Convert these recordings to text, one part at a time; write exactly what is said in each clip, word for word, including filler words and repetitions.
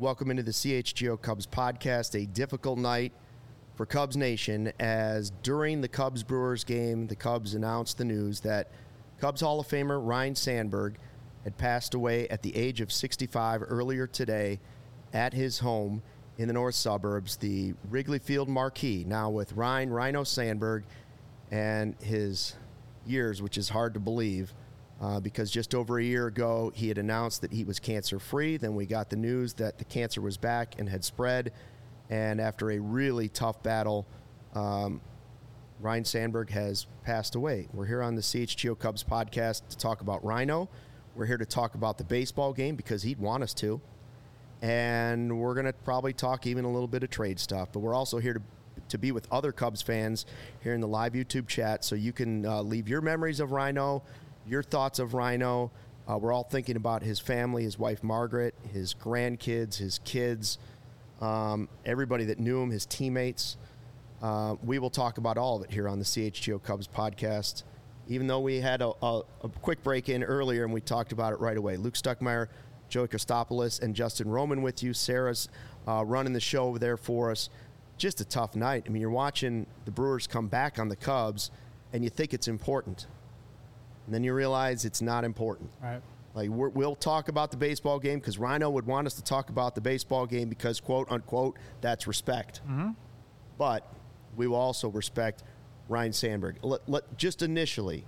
Welcome into the C H G O Cubs podcast. A difficult night for Cubs Nation as during the Cubs-Brewers game, the Cubs announced the news that Cubs Hall of Famer Ryne Sandberg had passed away at the age of sixty-five earlier today at his home in the north suburbs, the Wrigley Field marquee. Now with Ryne, Ryno Sandberg, and his years, which is hard to believe, uh, because just over a year ago he had announced that he was cancer-free. Then we got the news that the cancer was back and had spread. And after a really tough battle, um, Ryne Sandberg has passed away. We're here on the C H G O Cubs podcast to talk about Ryno. We're here to talk about the baseball game because he'd want us to. And we're going to probably talk even a little bit of trade stuff. But we're also here to to be with other Cubs fans here in the live YouTube chat, so you can uh, leave your memories of Ryno, your thoughts of Ryno. Uh, we're all thinking about his family, his wife Margaret, his grandkids, his kids, um, everybody that knew him, his teammates. Uh, we will talk about all of it here on the C H G O Cubs podcast, even though we had a, a, a quick break in earlier and we talked about it right away. Luke Stuckmeyer, Joey Christopoulos, and Justin Roman with you. Sarah's uh, running the show over there for us. Just a tough night. I mean, you're watching the Brewers come back on the Cubs, and you think it's important. And then you realize it's not important. Right. Like, we're, we'll talk about the baseball game because Ryno would want us to talk about the baseball game because, quote, unquote, that's respect. Mm-hmm. But we will also respect Ryne Sandberg. Let, let, just initially,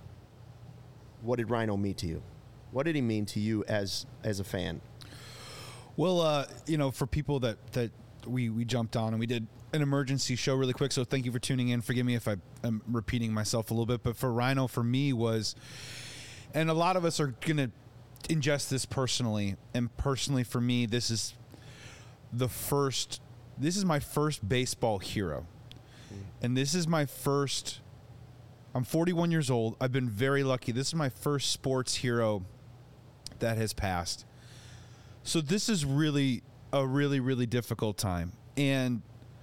what did Ryno mean to you? What did he mean to you as as a fan? Well, uh, you know, for people that, that we, we jumped on and we did an emergency show really quick, so thank you for tuning in. Forgive me if I am repeating myself a little bit, but for Ryno, for me was, and a lot of us are going to ingest this personally, and personally for me, this is the first, this is my first baseball hero. And this is my first, I'm forty-one years old. I've been very lucky. This is my first sports hero that has passed. So this is really a really, really difficult time. And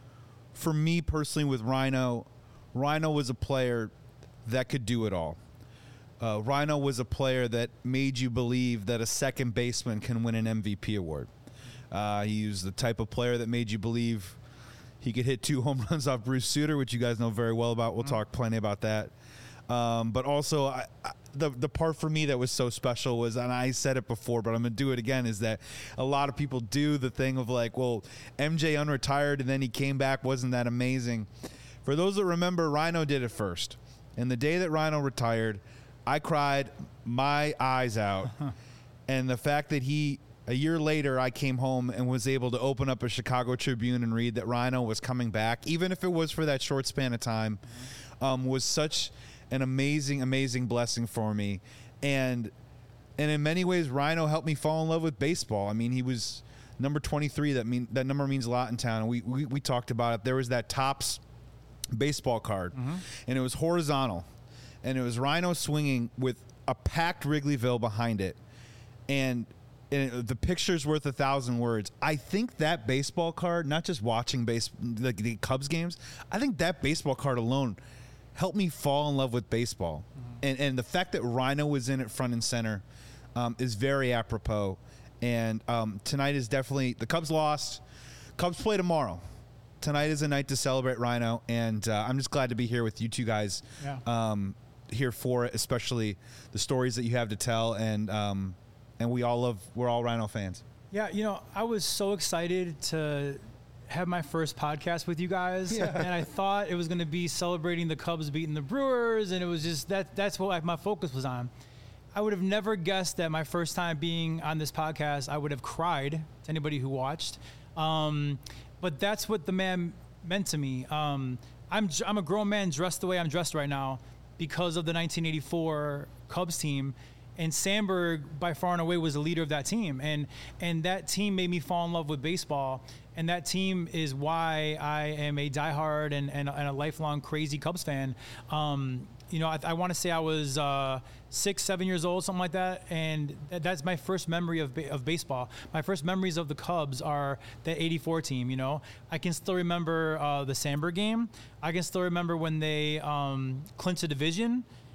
for me personally with Ryno, Ryno was a player that could do it all. Uh, Ryno was a player that made you believe that a second baseman can win an M V P award. Uh, he was the type of player that made you believe he could hit two home runs off Bruce Sutter, which you guys know very well about. We'll mm-hmm. talk plenty about that. Um, but also, I, I, the the part for me that was so special was, and I said it before, but I'm going to do it again, is that a lot of people do the thing of like, well, M J unretired and then he came back. Wasn't that amazing? For those that remember, Ryno did it first. And the day that Ryno retired, I cried my eyes out. And the fact that he, a year later, I came home and was able to open up a Chicago Tribune and read that Ryno was coming back, even if it was for that short span of time, um, was such an amazing, amazing blessing for me. And and in many ways, Ryno helped me fall in love with baseball. I mean, he was number twenty-three. That mean that number means a lot in town. And we, we, we talked about it. There was that Topps baseball card, mm-hmm. and it was horizontal. And it was Ryno swinging with a packed Wrigleyville behind it. And And the picture's worth a thousand words. I think that baseball card, not just watching base like the Cubs games, I think that baseball card alone helped me fall in love with baseball. Mm-hmm. And and the fact that Ryno was in it front and center um, is very apropos. And um, tonight is definitely, the Cubs lost. Cubs play tomorrow. Tonight is a night to celebrate Ryno, and uh, I'm just glad to be here with you two guys yeah. um, here for it, especially the stories that you have to tell. And um, And we all love, we're all Ryno fans. Yeah, you know, I was so excited to have my first podcast with you guys. Yeah. And I thought it was going to be celebrating the Cubs beating the Brewers. And it was just, that. that's what like, my focus was on. I would have never guessed that my first time being on this podcast, I would have cried to anybody who watched. Um, but that's what the man meant to me. Um, I'm, I'm a grown man dressed the way I'm dressed right now because of the nineteen eighty-four Cubs team. And Sandberg, by far and away, was the leader of that team. And and that team made me fall in love with baseball. And that team is why I am a diehard and, and, and a lifelong crazy Cubs fan. Um, you know, I, I want to say I was uh, six, seven years old, something like that. And th- that's my first memory of ba- of baseball. My first memories of the Cubs are the eighty-four team, you know. I can still remember uh, the Sandberg game. I can still remember when they um, clinched the division.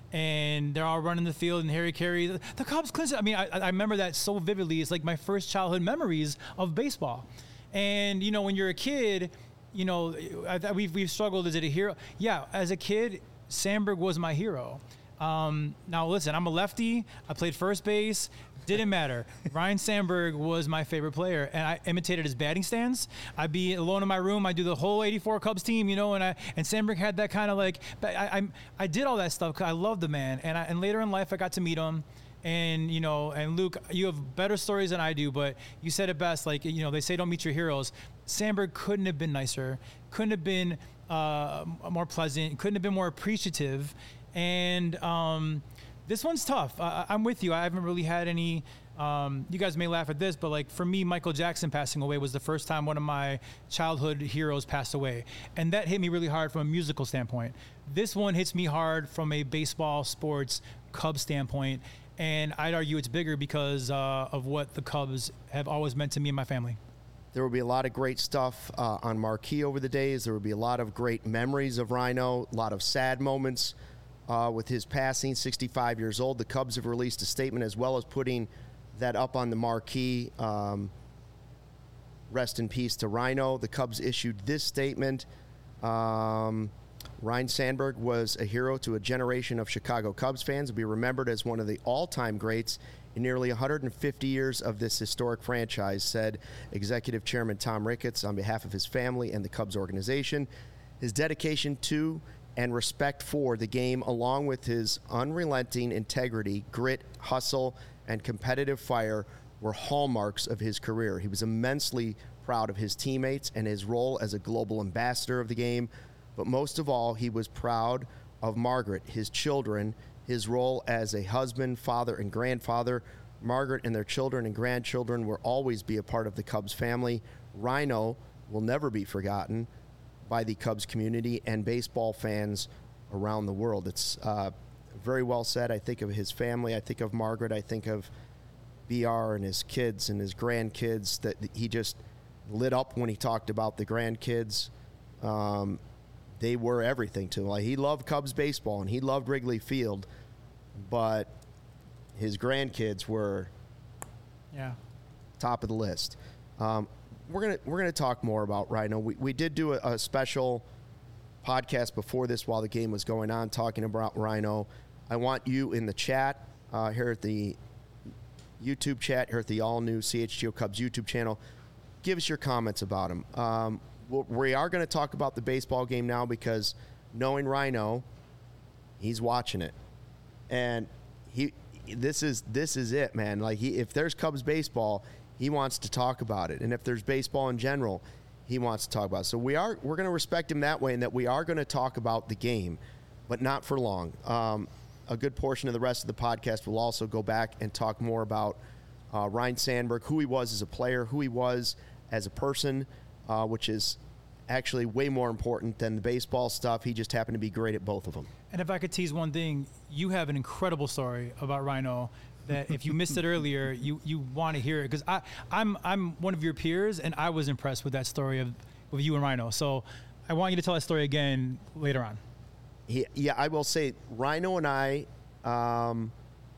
and they're all running the field, and Harry Carey, the, the Cubs clinched it. I mean, I, I remember that so vividly. It's like my first childhood memories of baseball. And, you know, when you're a kid, you know, I, I, we've, we've struggled. Is it a hero? Yeah, as a kid, Sandberg was my hero. Um, now, listen, I'm a lefty. I played first base. Didn't matter. Ryne Sandberg was my favorite player, and I imitated his batting stance. I'd be alone in my room. I'd do the whole eighty-four Cubs team, you know, and I and Sandberg had that kind of like, I, I I did all that stuff because I loved the man. And I, and later in life, I got to meet him. And, you know, and Luke, you have better stories than I do, but you said it best. Like, you know, they say don't meet your heroes. Sandberg couldn't have been nicer, couldn't have been uh, more pleasant, couldn't have been more appreciative. And, um, this one's tough. Uh, I'm with you. I haven't really had any, um, you guys may laugh at this, but like for me, Michael Jackson passing away was the first time one of my childhood heroes passed away. And that hit me really hard from a musical standpoint. This one hits me hard from a baseball, sports, Cubs standpoint. And I'd argue it's bigger because uh, of what the Cubs have always meant to me and my family. There will be a lot of great stuff uh, on Marquee over the days. There will be a lot of great memories of Ryno, a lot of sad moments. Uh, with his passing, sixty-five years old. The Cubs have released a statement as well as putting that up on the marquee. Um, rest in peace to Ryno. The Cubs issued this statement. Um, Ryne Sandberg was a hero to a generation of Chicago Cubs fans. Will be remembered as one of the all-time greats in nearly one hundred fifty years of this historic franchise, said Executive Chairman Tom Ricketts on behalf of his family and the Cubs organization. His dedication to and respect for the game, along with his unrelenting integrity, grit, hustle, and competitive fire, were hallmarks of his career. He was immensely proud of his teammates and his role as a global ambassador of the game, but most of all, he was proud of Margaret, his children, his role as a husband, father, and grandfather. Margaret and their children and grandchildren will always be a part of the Cubs family. Ryno will never be forgotten by the Cubs community and baseball fans around the world. It's uh, very well said. I think of his family. I think of Margaret. I think of B R and his kids and his grandkids, that he just lit up when he talked about the grandkids. Um, they were everything to him. Like, he loved Cubs baseball and he loved Wrigley Field, but his grandkids were yeah. top of the list. Um, We're gonna we're gonna talk more about Ryno. We we did do a, a special podcast before this while the game was going on, talking about Ryno. I want you in the chat uh, here at the YouTube chat, here at the all new C H G O Cubs YouTube channel. Give us your comments about him. Um, we are going to talk about the baseball game now because knowing Ryno, he's watching it, and he this is this is it, man. Like, he if there's Cubs baseball, he wants to talk about it. And if there's baseball in general, he wants to talk about it. So we are, we're going to respect him that way, in that we are going to talk about the game, but not for long. Um, a good portion of the rest of the podcast will also go back and talk more about uh, Ryne Sandberg, who he was as a player, who he was as a person, uh, which is actually way more important than the baseball stuff. He just happened to be great at both of them. And if I could tease one thing, you have an incredible story about Ryno that if you missed it earlier, you, you want to hear it. Because I I'm I'm one of your peers, and I was impressed with that story of with you and Ryno. So I want you to tell that story again later on. He, yeah, I will say Ryno and I, um,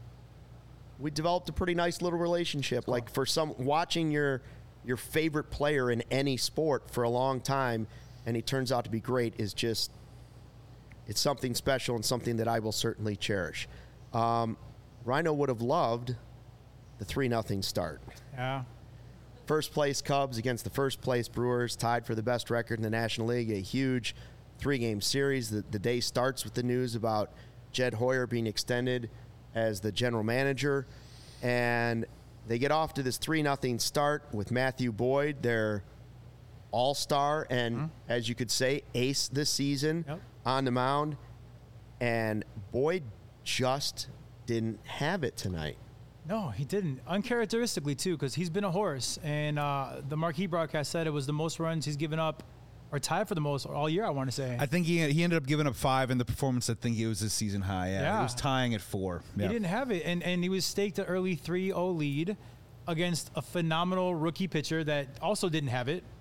we developed a pretty nice little relationship. Cool. Like, for some, watching your your favorite player in any sport for a long time, and he turns out to be great, is just, it's something special and something that I will certainly cherish. Um, Ryno would have loved the three nothing start. Yeah. First place Cubs against the first place Brewers, tied for the best record in the National League. A huge three-game series. The, the day starts with the news about Jed Hoyer being extended as the general manager. And they get off to this three nothing start with Matthew Boyd, their all-star and, mm-hmm. as you could say, ace this season, yep. on the mound. And Boyd just didn't have it tonight. No, he didn't. Uncharacteristically, too, because he's been a horse. And uh, the Marquee broadcast said it was the most runs he's given up, or tied for the most all year, I want to say. I think he he ended up giving up five in the performance. I think it was his season high. Yeah, yeah. It was tying at four. He yeah. didn't have it. And, and he was staked an early three oh lead against a phenomenal rookie pitcher that also didn't have it.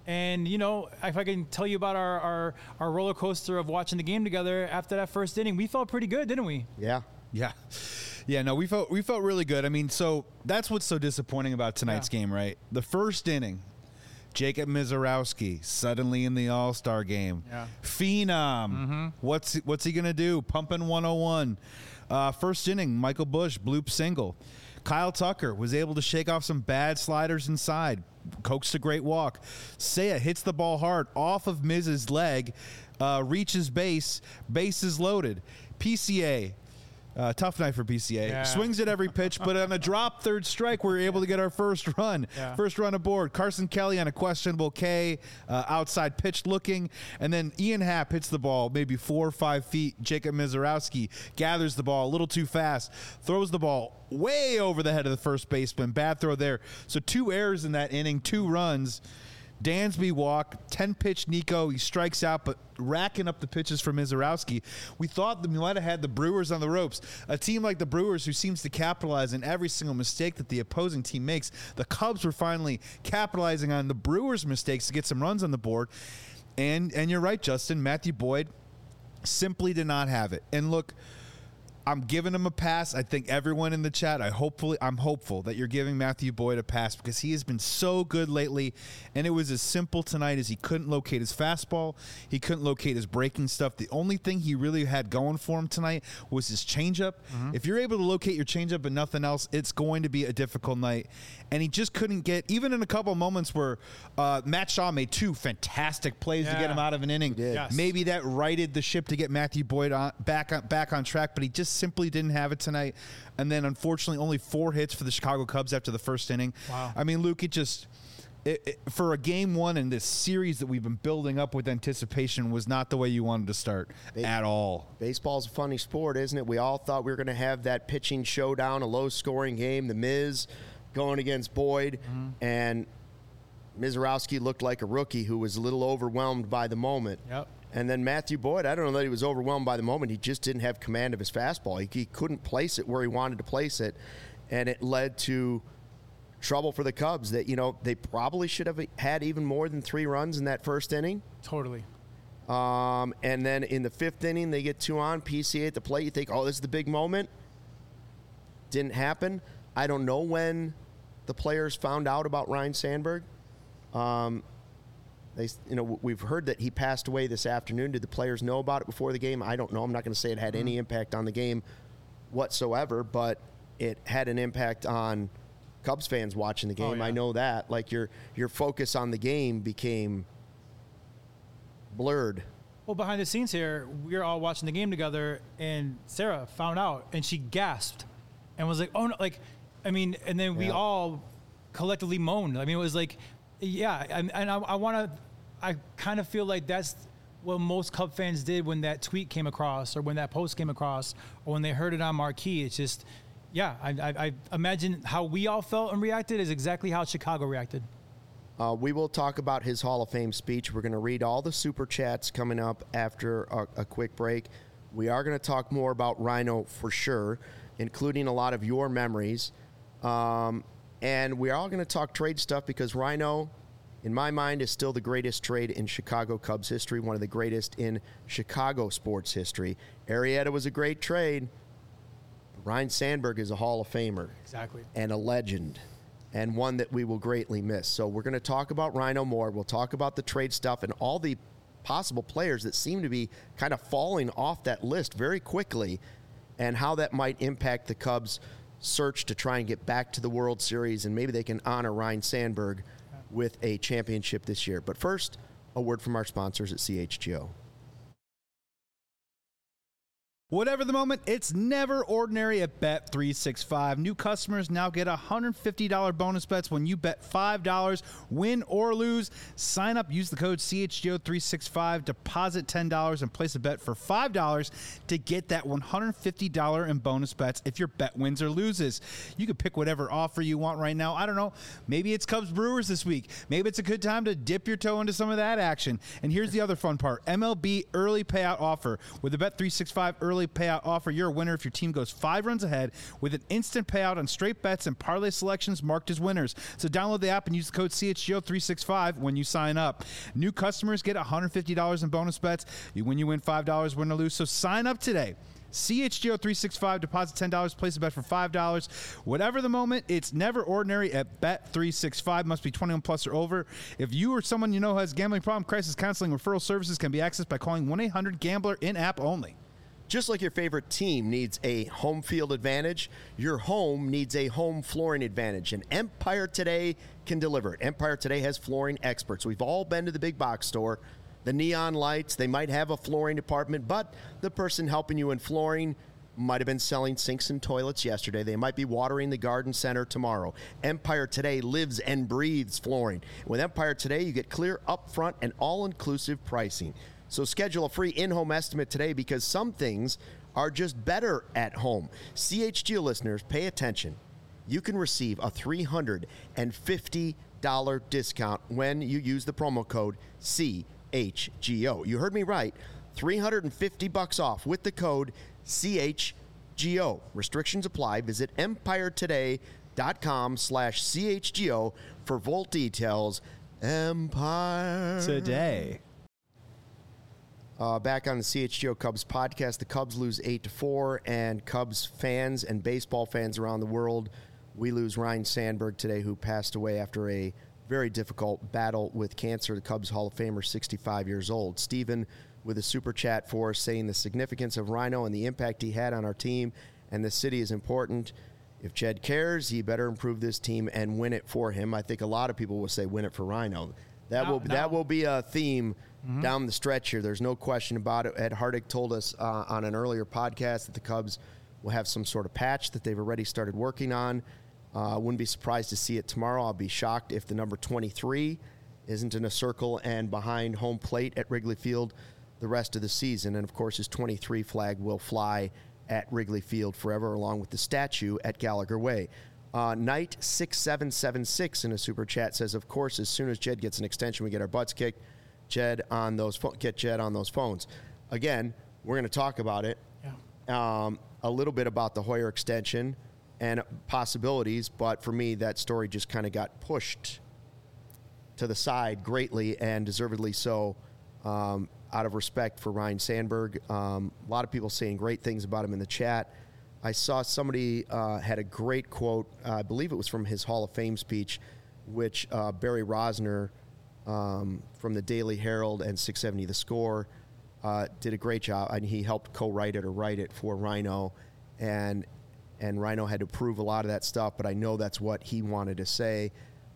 And, you know, if I can tell you about our, our, our roller coaster of watching the game together after that first inning, we felt pretty good, didn't we? Yeah. Yeah. Yeah, no, we felt we felt really good. I mean, so that's what's so disappointing about tonight's yeah. game, right? The first inning, Jacob Misiorowski suddenly in the All-Star game. Yeah. Phenom. Mm-hmm. What's what's he going to do? Pumping one oh one. Uh, first inning, Michael Busch, bloop single. Kyle Tucker was able to shake off some bad sliders inside, coaxed a great walk. Seiya hits the ball hard off of Miz's leg, uh, reaches base, bases loaded. P C A, uh, tough night for P C A. Yeah. Swings at every pitch, but on a drop third strike, we were able to get our first run. Yeah. First run aboard. Carson Kelly on a questionable K, uh, outside pitch looking, and then Ian Happ hits the ball maybe four or five feet. Jacob Misiorowski gathers the ball a little too fast, throws the ball way over the head of the first baseman. Bad throw there. So two errors in that inning, two runs. Dansby walk, ten-pitch Nico. He strikes out, but racking up the pitches for Misiorowski. We thought that we might have had the Brewers on the ropes. A team like the Brewers who seems to capitalize on every single mistake that the opposing team makes. The Cubs were finally capitalizing on the Brewers' mistakes to get some runs on the board. And, and you're right, Justin. Matthew Boyd simply did not have it. And look, I'm giving him a pass. I think everyone in the chat, I hopefully, I'm hopeful that you're giving Matthew Boyd a pass because he has been so good lately. And it was as simple tonight as he couldn't locate his fastball. He couldn't locate his breaking stuff. The only thing he really had going for him tonight was his changeup. Mm-hmm. If you're able to locate your changeup and nothing else, it's going to be a difficult night. And he just couldn't get, even in a couple of moments where uh, Matt Shaw made two fantastic plays yeah. to get him out of an inning. Yes. Maybe that righted the ship to get Matthew Boyd on, back on, back on track, but he just simply didn't have it tonight. And then unfortunately only four hits for the Chicago Cubs after the first inning. Wow. I mean, Luke, it just it, it, for a game one in this series that we've been building up with anticipation was not the way you wanted to start Base- at all. Baseball's a funny sport, isn't it? We all thought we were going to have that pitching showdown, a low-scoring game, the Miz going against Boyd, mm-hmm. and Misiorowski looked like a rookie who was a little overwhelmed by the moment. Yep. And then Matthew Boyd, I don't know that he was overwhelmed by the moment. He just didn't have command of his fastball. He, he couldn't place it where he wanted to place it, and it led to trouble for the Cubs that, you know, they probably should have had even more than three runs in that first inning. Totally. Um, and then in the fifth inning, they get two on, P C A at the plate. You think, oh, this is the big moment. Didn't happen. I don't know when the players found out about Ryne Sandberg. Um, they, you know, we've heard that he passed away this afternoon. Did the players know about it before the game? I don't know. I'm not going to say it had any impact on the game whatsoever, but it had an impact on Cubs fans watching the game. Oh, yeah. I know that. Like, your your focus on the game became blurred. Well, behind the scenes here, we were all watching the game together, and Sarah found out, and she gasped and was like, oh, no, like, I mean, and then we yeah. all collectively moaned. I mean, it was like, yeah, and, and I, I want to, I kind of feel like that's what most Cub fans did when that tweet came across or when that post came across or when they heard it on Marquee. It's just, yeah, I, I, I imagine how we all felt and reacted is exactly how Chicago reacted. Uh, we will talk about his Hall of Fame speech. We're going to read all the super chats coming up after a, a quick break. We are going to talk more about Rhino for sure, including a lot of your memories. Um, and we're all going to talk trade stuff because Rhino, in my mind, is still the greatest trade in Chicago Cubs history, one of the greatest in Chicago sports history. Arrieta was a great trade. Ryne Sandberg is a Hall of Famer. Exactly. And a legend. And one that we will greatly miss. So we're going to talk about Rhino more. We'll talk about the trade stuff and all the possible players that seem to be kind of falling off that list very quickly and how that might impact the Cubs' search to try and get back to the World Series, and maybe they can honor Ryne Sandberg with a championship this year. But first, a word from our sponsors at C H G O. Whatever the moment, it's never ordinary at Bet three sixty-five. New customers now get one hundred fifty dollars bonus bets when you bet five dollars, win or lose. Sign up, use the code C H G O three sixty-five, deposit ten dollars, and place a bet for five dollars to get that one hundred fifty dollars in bonus bets if your bet wins or loses. You can pick whatever offer you want right now. I don't know. Maybe it's Cubs Brewers this week. Maybe it's a good time to dip your toe into some of that action. And here's the other fun part. M L B early payout offer with the Bet three sixty-five early parlay payout offer. You're a winner if your team goes five runs ahead with an instant payout on straight bets and parlay selections marked as winners. So download the app and use the code C H G O three sixty-five when you sign up. New customers get one hundred fifty dollars in bonus bets when you win five dollars, win or lose. So sign up today. C H G O three sixty-five, deposit ten dollars, place a bet for five dollars. Whatever the moment, it's never ordinary at Bet three sixty-five. Must be twenty-one plus or over. If you or someone you know has a gambling problem, crisis counseling, referral services can be accessed by calling one eight hundred gambler in-app only. Just like your favorite team needs a home field advantage, your home needs a home flooring advantage, and Empire Today can deliver it. Empire Today has flooring experts. We've all been to the big box store. The neon lights, they might have a flooring department, but the person helping you in flooring might have been selling sinks and toilets yesterday. They might be watering the garden center tomorrow. Empire Today lives and breathes flooring. With Empire Today, you get clear, upfront, and all-inclusive pricing. So schedule a free in-home estimate today because some things are just better at home. C H G O listeners, pay attention. You can receive a three hundred fifty dollars discount when you use the promo code C H G O. You heard me right. three hundred fifty bucks off with the code C H G O. Restrictions apply. Visit empiretoday.com slash CHGO for full details. Empire Today. Uh, back on the C H G O Cubs podcast, the Cubs lose eight to four, and Cubs fans and baseball fans around the world, we lose Ryne Sandberg today, who passed away after a very difficult battle with cancer. The Cubs Hall of Famer, sixty-five years old. Stephen with a super chat for us saying the significance of Ryno and the impact he had on our team and the city is important. If Jed cares, he better improve this team and win it for him. I think a lot of people will say win it for Ryno. That no, will no. that will be a theme mm-hmm. down the stretch here. There's no question about it. Ed Hardick told us uh, on an earlier podcast that the Cubs will have some sort of patch that they've already started working on. I uh, wouldn't be surprised to see it tomorrow. I'll be shocked if the number twenty-three isn't in a circle and behind home plate at Wrigley Field the rest of the season. And, of course, his twenty-three flag will fly at Wrigley Field forever, along with the statue at Gallagher Way. Uh, Knight six seven seven six in a super chat says, of course, as soon as Jed gets an extension, we get our butts kicked. Jed on those fo- get Jed on those phones. Again, we're going to talk about it. Yeah. Um, a little bit about the Hoyer extension and possibilities, but for me, that story just kind of got pushed to the side greatly, and deservedly so, um, out of respect for Ryne Sandberg. Um, a lot of people saying great things about him in the chat. I saw somebody uh, had a great quote, uh, I believe it was from his Hall of Fame speech, which uh, Barry Rosner um, from the Daily Herald and six seventy The Score uh, did a great job, and he helped co-write it or write it for Ryno, and and Ryno had to prove a lot of that stuff, but I know that's what he wanted to say.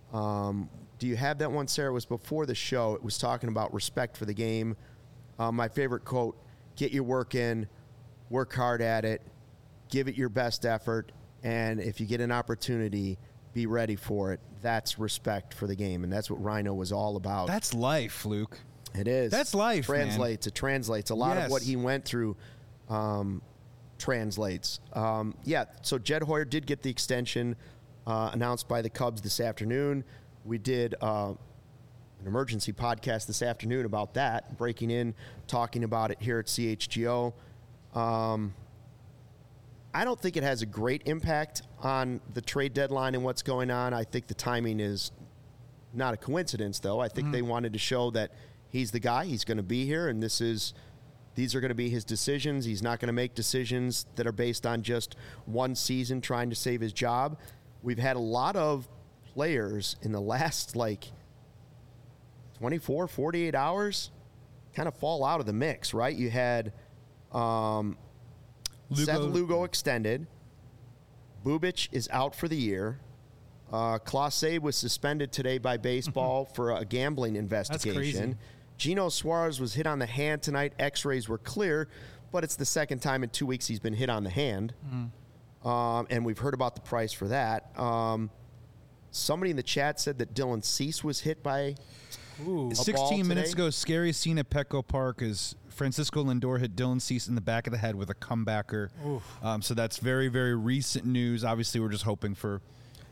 Um, do you have that one, Sarah? It was before the show. It was talking about respect for the game. Um, my favorite quote, get your work in, work hard at it, give it your best effort, and if you get an opportunity, be ready for it. That's respect for the game, and that's what Ryno was all about. That's life, Luke. It is. That's life, Translates. man. It translates. A lot yes. of what he went through um, translates. Um, yeah, so Jed Hoyer did get the extension uh, announced by the Cubs this afternoon. We did uh, an emergency podcast this afternoon about that, breaking in, talking about it here at C H G O. Um, I don't think it has a great impact on the trade deadline and what's going on. I think the timing is not a coincidence, though. I think mm-hmm. they wanted to show that he's the guy. He's going to be here, and this is these are going to be his decisions. He's not going to make decisions that are based on just one season trying to save his job. We've had a lot of players in the last, like, twenty-four, forty-eight hours kind of fall out of the mix, right? You had um, Lugo. Seth Lugo extended. Bubic is out for the year. Uh, Clase was suspended today by baseball for a gambling investigation. That's crazy. Gino Suarez was hit on the hand tonight. X-rays were clear, but it's the second time in two weeks he's been hit on the hand. Mm. Um, and we've heard about the price for that. Um, somebody in the chat said that Dylan Cease was hit by Ooh. sixteen minutes ago, scary scene at Petco Park is Francisco Lindor hit Dylan Cease in the back of the head with a comebacker. Um, so that's very, very recent news. Obviously, we're just hoping for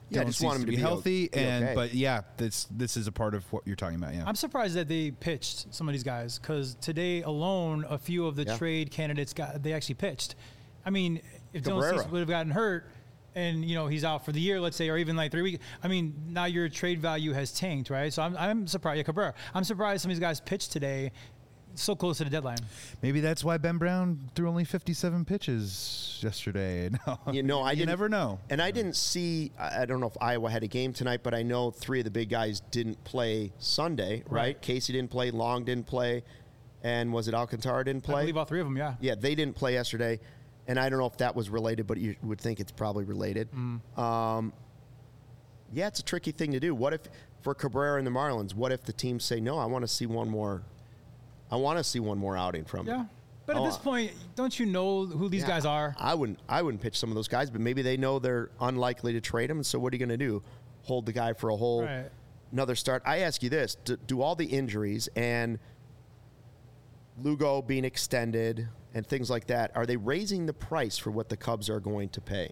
Yeah, I Dylan just seems want him to be be o- healthy, be and okay. but yeah, this this is a part of what you're talking about. Yeah, I'm surprised that they pitched some of these guys because today alone, a few of the Yeah. trade candidates got they actually pitched. I mean, if Dylan Cabrera. Cease would have gotten hurt and you know he's out for the year, let's say, or even like three weeks, I mean, now your trade value has tanked, right? So I'm I'm surprised. Yeah, Cabrera. I'm surprised some of these guys pitched today, so close to the deadline. maybe that's why Ben Brown threw only fifty-seven pitches yesterday. No, You know, I you didn't- never know. And I didn't see, I I don't know if Iowa had a game tonight, but I know three of the big guys didn't play Sunday, right? Right. Casey didn't play, Long didn't play, and was it Alcantara didn't I play? believe all three of them. Yeah. Yeah, they didn't play yesterday. And I don't know if that was related, but you would think it's probably related. Um, yeah, it's a tricky thing to do. What if, for Cabrera and the Marlins, what if the teams say, no, I want to see one more, I want to see one more outing from him? Yeah. But at Oh, this point, don't you know who these Yeah, guys are? I wouldn't. I wouldn't pitch some of those guys, but maybe they know they're unlikely to trade him. So what are you going to do? Hold the guy for a whole Right. another start? I ask you this: do, do all the injuries and Lugo being extended and things like that, are they raising the price for what the Cubs are going to pay?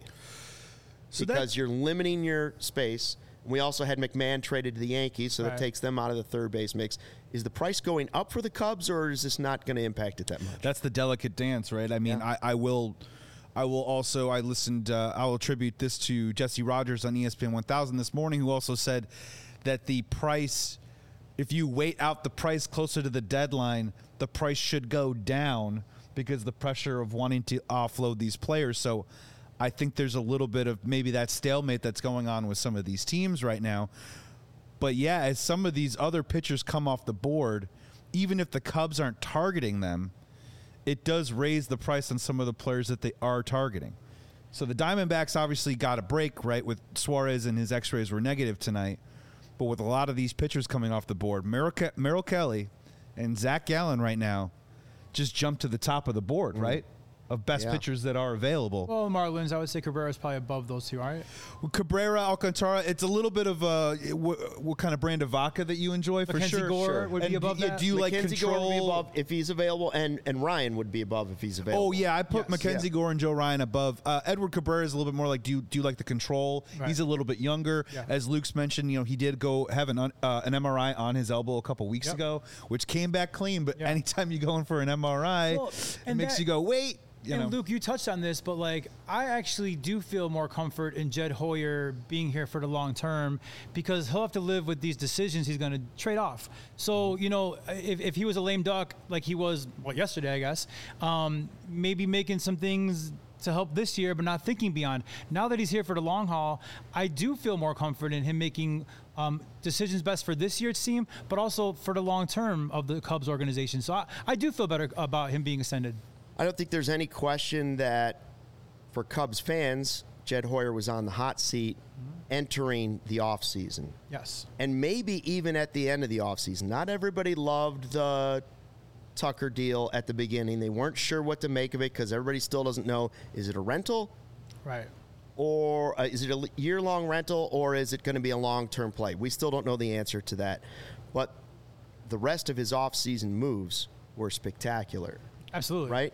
So that- because you're limiting your space. We also had McMahon traded to the Yankees, so that Right. takes them out of the third base mix. Is the price going up for the Cubs, or is this not going to impact it that much? That's the delicate dance, right? I mean, Yeah. I, I will, I will also. I listened. Uh, I will attribute this to Jesse Rogers on E S P N one thousand this morning, who also said that the price, if you wait out the price closer to the deadline, the price should go down because the pressure of wanting to offload these players. So I think there's a little bit of maybe that stalemate that's going on with some of these teams right now. But yeah, as some of these other pitchers come off the board, even if the Cubs aren't targeting them, it does raise the price on some of the players that they are targeting. So the Diamondbacks obviously got a break, right, with Suarez, and his x-rays were negative tonight. But with a lot of these pitchers coming off the board, Merrill, Ke- Merrill Kelly and Zach Gallen right now just jumped to the top of the board, right, of best Yeah. pitchers that are available. Well, Marlins, I would say Cabrera's probably above those two, right? Cabrera, Alcantara, it's a little bit of a what, what kind of brand of vodka that you enjoy for Mackenzie sure. Gore Sure. would And be above do, you- that. do you like Mackenzie Gore would be control? above if he's available, and, and Ryan would be above if he's available. Oh yeah, I put Yes. Mackenzie Yeah. Gore and Joe Ryan above. Uh, Edward Cabrera is a little bit more like do you, do you like the control? Right. He's a little bit younger. Yeah. As Luke's mentioned, you know he did go have an un- uh, an M R I on his elbow a couple weeks Yep. ago, which came back clean. But Yeah. anytime you go in for an M R I, Well, it and makes that- you go wait. You and know. Luke, you touched on this, but like I actually do feel more comfort in Jed Hoyer being here for the long term because he'll have to live with these decisions he's going to trade off. So you know, if, if he was a lame duck like he was well yesterday, I guess, um, maybe making some things to help this year, but not thinking beyond. Now that he's here for the long haul, I do feel more comfort in him making um, decisions best for this year's team, but also for the long term of the Cubs organization. So I, I do feel better about him being extended. I don't think there's any question that for Cubs fans, Jed Hoyer was on the hot seat entering the offseason. Yes. And maybe even at the end of the offseason. Not everybody loved the Tucker deal at the beginning. They weren't sure what to make of it because everybody still doesn't know, is it a rental Right. or uh, is it a year-long rental or is it going to be a long-term play? We still don't know the answer to that. But the rest of his offseason moves were spectacular. Absolutely. Right?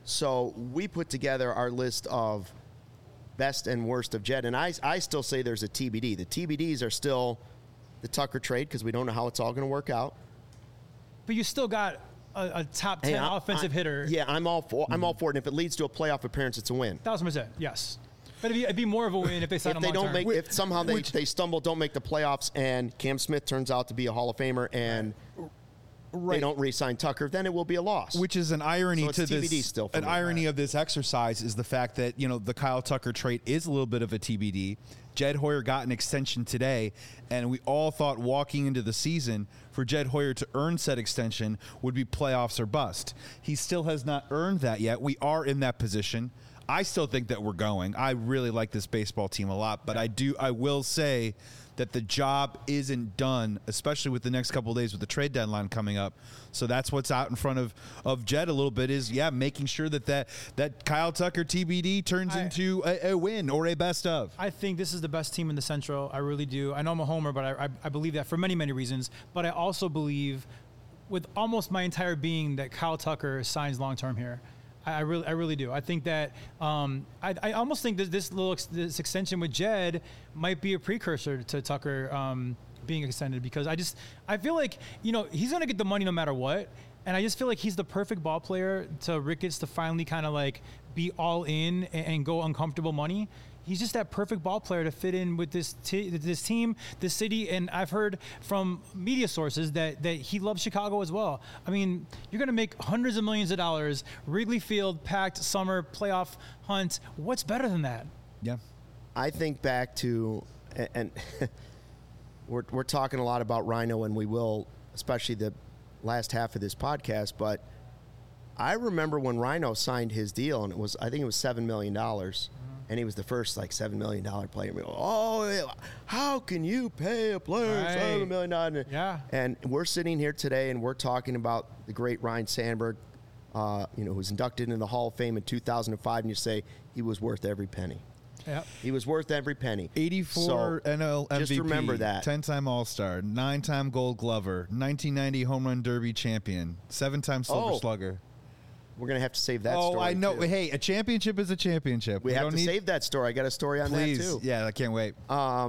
So we put together our list of best and worst of Jed, and I, I still say there's a T B D. The T B Ds are still the Tucker trade because we don't know how it's all going to work out. But you still got a, a top ten Hey, I- offensive I- hitter. Yeah, I'm all for. I'm all for it. And if it leads to a playoff appearance, it's a win. Thousand percent. Yes. But it'd be, it'd be more of a win if they sign If him they long don't term. make, if somehow they, they stumble, don't make the playoffs, and Cam Smith turns out to be a Hall of Famer, and they don't re-sign Tucker, then it will be a loss. Which is an irony So it's to T B D this. still for an me. irony of this exercise is the fact that you know the Kyle Tucker trade is a little bit of a T B D. Jed Hoyer got an extension today, and we all thought walking into the season for Jed Hoyer to earn said extension would be playoffs or bust. He still has not earned that yet. We are in that position. I still think that we're going. I really like this baseball team a lot, but I do. I will say that the job isn't done, especially with the next couple of days with the trade deadline coming up. So that's what's out in front of, of Jed a little bit is, yeah, making sure that that, that Kyle Tucker T B D turns I- into a, a win or a best of. I think this is the best team in the Central. I really do. I know I'm a homer, but I, I, I believe that for many, many reasons. But I also believe with almost my entire being that Kyle Tucker signs long term here. I, I really, I really do. I think that um, I, I almost think that this little ex- this extension with Jed might be a precursor to Tucker um, being extended, because I just I feel like, you know, he's gonna get the money no matter what, and I just feel like he's the perfect ball player to Ricketts to finally kind of like be all in and, and go uncomfortable money. He's just that perfect ball player to fit in with this t- this team, this city, and I've heard from media sources that, that he loves Chicago as well. I mean, you're going to make hundreds of millions of dollars, Wrigley Field, packed summer playoff hunt. What's better than that? Yeah. I think back to, and, and we're we're talking a lot about Rhino, and we will, especially the last half of this podcast, but I remember when Rhino signed his deal, and it was I think it was seven million dollars. And he was the first like seven million dollar player. We go, oh, how can you pay a player Right. seven million dollars? Yeah. And we're sitting here today, and we're talking about the great Ryne Sandberg, uh, you know, who was inducted into the Hall of Fame in two thousand five, and you say he was worth every penny. Yep. He was worth every penny. eighty-four So, N L M V P. just remember that. ten-time All-Star, nine-time Gold Glover, nineteen ninety Home Run Derby champion, seven-time Silver Oh. Slugger. We're gonna have to save that. Oh, story I know. too. Hey, a championship is a championship. we, have don't to need, save that story. I got a story on Please, that too. yeah, I can't wait.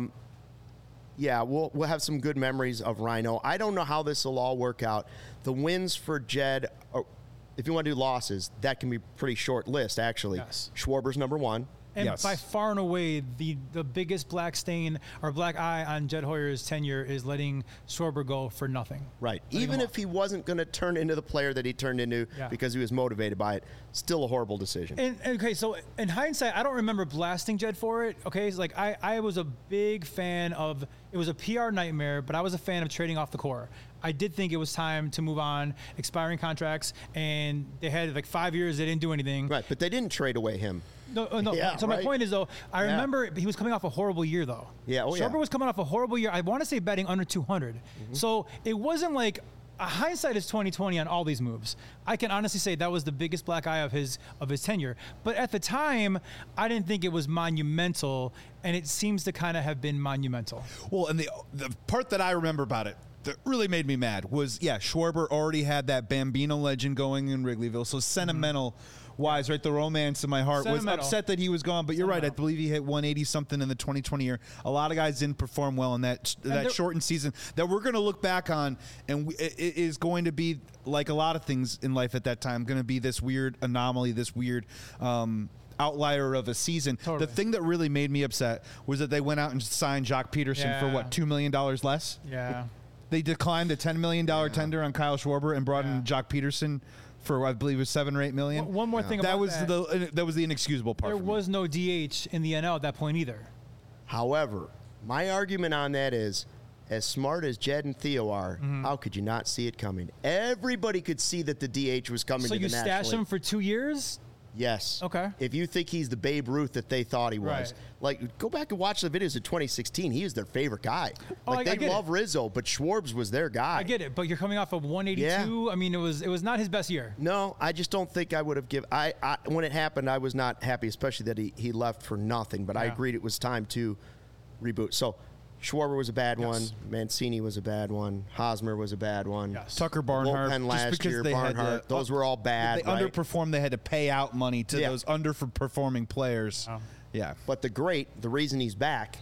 Yeah, we'll we'll have some good memories of Rhino. I don't know how this will all work out. The wins for Jed, are, if you want to do losses, that can be a pretty short list actually. Yes. Schwarber's number one. And Yes. by far and away, the, the biggest black stain or black eye on Jed Hoyer's tenure is letting Schwarber go for nothing. Right. Letting Even him if walk. he wasn't going to turn into the player that he turned into Yeah. because he was motivated by it, still a horrible decision. And, and, okay, so in hindsight, I don't remember blasting Jed for it. Okay, it's like I, I was a big fan of, it was a P R nightmare, but I was a fan of trading off the core. I did think it was time to move on, expiring contracts, and they had like five years, they didn't do anything. Right, but they didn't trade away him. No, uh, no. Yeah, so my right. point is, though, I Yeah. remember he was coming off a horrible year, though. Yeah, oh, yeah. Schwarber was coming off a horrible year. I want to say batting under two hundred. Mm-hmm. So it wasn't like uh, hindsight is twenty twenty on all these moves. I can honestly say that was the biggest black eye of his of his tenure. But at the time, I didn't think it was monumental, and it seems to kind of have been monumental. Well, and the the part that I remember about it that really made me mad was, yeah, Schwarber already had that Bambino legend going in Wrigleyville, so sentimental wise, right, the romance in my heart was Sentimental. upset that he was gone, but you're right, I Sentimental. believe he hit one eighty something in the twenty twenty year. A lot of guys didn't perform well in that that there- shortened season that we're going to look back on, and we, it, it is going to be, like a lot of things in life at that time, going to be this weird anomaly, this weird um outlier of a season. Totally. The thing that really made me upset was that they went out and signed Jock Peterson for Yeah. what, two million dollars less? Yeah. They declined the ten million dollars tender on Kyle Schwarber and brought Yeah. in Jock Peterson for, I believe, it was seven or eight million. One- one more thing that about was that. the that was the inexcusable part. There for me. was no D H in the N L at that point either. However, my argument on that is, as smart as Jed and Theo are, Mm-hmm. how could you not see it coming? Everybody could see that the D H was coming So to you the stash National him League. for two years? Yes. Okay. If you think he's the Babe Ruth that they thought he was, Right. like, go back and watch the videos of twenty sixteen. He was their favorite guy. Oh, Like, I- I they get love it. Rizzo, but Schwarbs was their guy. I get it, but you're coming off of one eighty-two. I mean, it was it was not his best year. No, I just don't think I would have given. I, I when it happened, I was not happy, especially that he, he left for nothing. But I Yeah. agreed it was time to reboot. So Schwarber was a bad Yes. one. Mancini was a bad one. Hosmer was a bad one. Yes. Tucker Barnhart, Bullpen just last because year, they had Barnhart, to- those were all bad. They right? underperformed. They had to pay out money to Yeah. those underperforming players. Oh. Yeah. But the great, the reason he's back,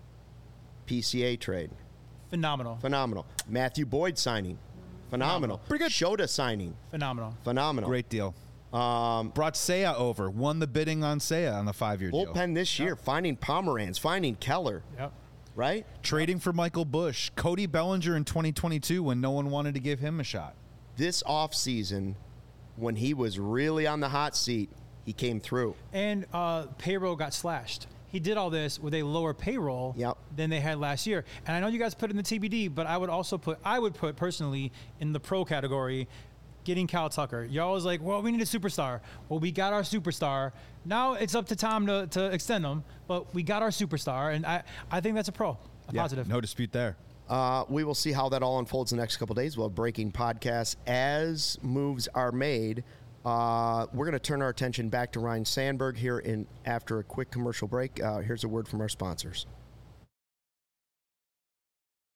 P C A trade, Phenomenal. phenomenal. Matthew Boyd signing, phenomenal. Pretty good. Shota signing, Phenomenal. phenomenal. Great deal. Um, Brought Seiya over. Won the bidding on Seiya on the five-year deal. Bullpen this year, finding Pomeranz, finding Keller, Yep. right? Trading for Michael Bush. Cody Bellinger in twenty twenty-two when no one wanted to give him a shot. This offseason, when he was really on the hot seat, he came through. And uh, payroll got slashed. He did all this with a lower payroll Yep. than they had last year. And I know you guys put it in the T B D, but I would also put, I would put personally in the pro category, getting Cal Tucker. Y'all was like, well, we need a superstar. Well, we got our superstar. Now it's up to Tom to, to extend them, but we got our superstar. And I, I think that's a pro, a Yeah, positive. no dispute there. Uh, we will see how that all unfolds in the next couple of days. We'll have breaking podcasts as moves are made. Uh, we're going to turn our attention back to Ryne Sandberg here in after a quick commercial break. Uh, here's a word from our sponsors.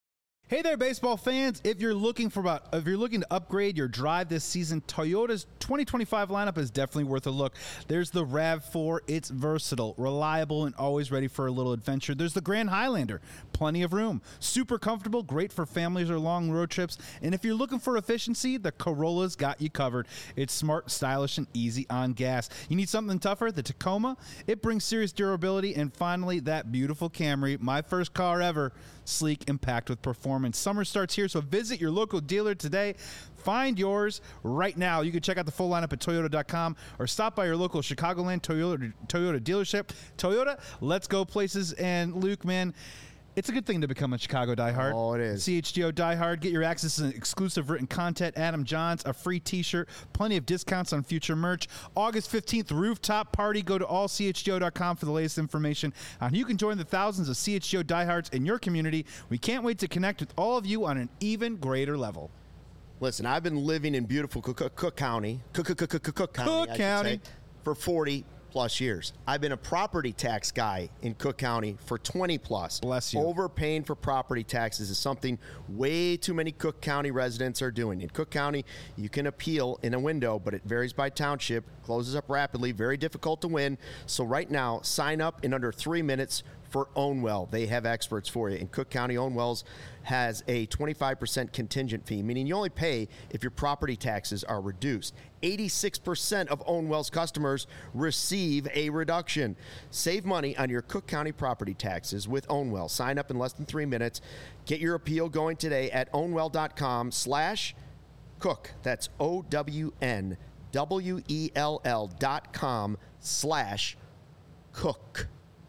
Hey there, baseball fans. If you're looking for about if you're looking to upgrade your drive this season, Toyota's twenty twenty-five lineup is definitely worth a look. There's the RAV four. It's versatile, reliable, and always ready for a little adventure. There's the Grand Highlander. Plenty of room. Super comfortable, great for families or long road trips. And if you're looking for efficiency, the Corolla's got you covered. It's smart, stylish, and easy on gas. You need something tougher? The Tacoma. It brings serious durability. And finally, that beautiful Camry, my first car ever, sleek and packed with performance. Summer starts here, so visit your local dealer today. Find yours right now. You can check out the full lineup at Toyota dot com or stop by your local Chicagoland Toyota, Toyota dealership. Toyota, let's go places. And Luke, man, it's a good thing to become a Chicago diehard. Oh, it is. C H G O diehard. Get your access to exclusive written content, Adam Johns, a free t-shirt, plenty of discounts on future merch. August fifteenth, rooftop party. Go to all C H G O dot com for the latest information on how you can join the thousands of C H G O diehards in your community. We can't wait to connect with all of you on an even greater level. Listen, I've been living in beautiful Cook, Cook County, Cook, Cook, Cook, Cook, Cook County, Cook I should County. say, for forty plus years. I've been a property tax guy in Cook County for twenty plus. Bless you. Overpaying for property taxes is something way too many Cook County residents are doing. In Cook County, you can appeal in a window, but it varies by township, closes up rapidly, very difficult to win. So right now, sign up in under three minutes for Ownwell. They have experts for you. In Cook County, Ownwells has a twenty-five percent contingent fee, meaning you only pay if your property taxes are reduced. eighty-six percent of Ownwell's customers receive a reduction. Save money on your Cook County property taxes with Ownwell. Sign up in less than three minutes. Get your appeal going today at ownwell dot com slash cook. That's O W N W E L L dot com slash cook.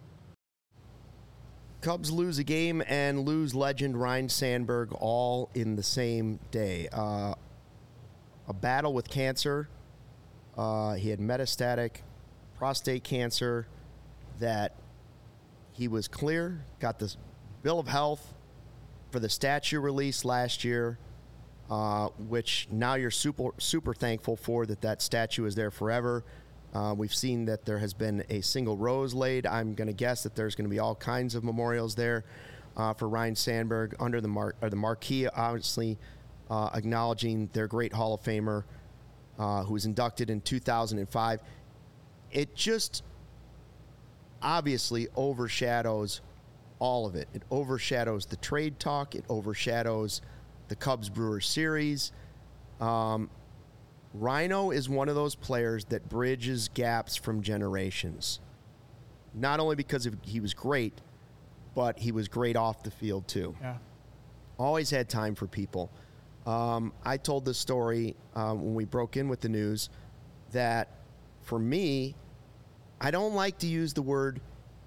Cubs lose a game and lose legend Ryne Sandberg all in the same day. Uh, a battle with cancer. Uh, he had metastatic prostate cancer that he was clear, got this bill of health for the statue release last year, uh, which now you're super, super thankful for that that statue is there forever. Uh, we've seen that there has been a single rose laid. I'm going to guess that there's going to be all kinds of memorials there uh, for Ryne Sandberg under the mar- or the marquee, obviously uh, acknowledging their great Hall of Famer uh, who was inducted in two thousand five. It just obviously overshadows all of it. It overshadows the trade talk. It overshadows the Cubs-Brewers series. Um, Rhino is one of those players that bridges gaps from generations. Not only because of, he was great, but he was great off the field too. Yeah. Always had time for people. Um, I told this story um, when we broke in with the news that for me, I don't like to use the word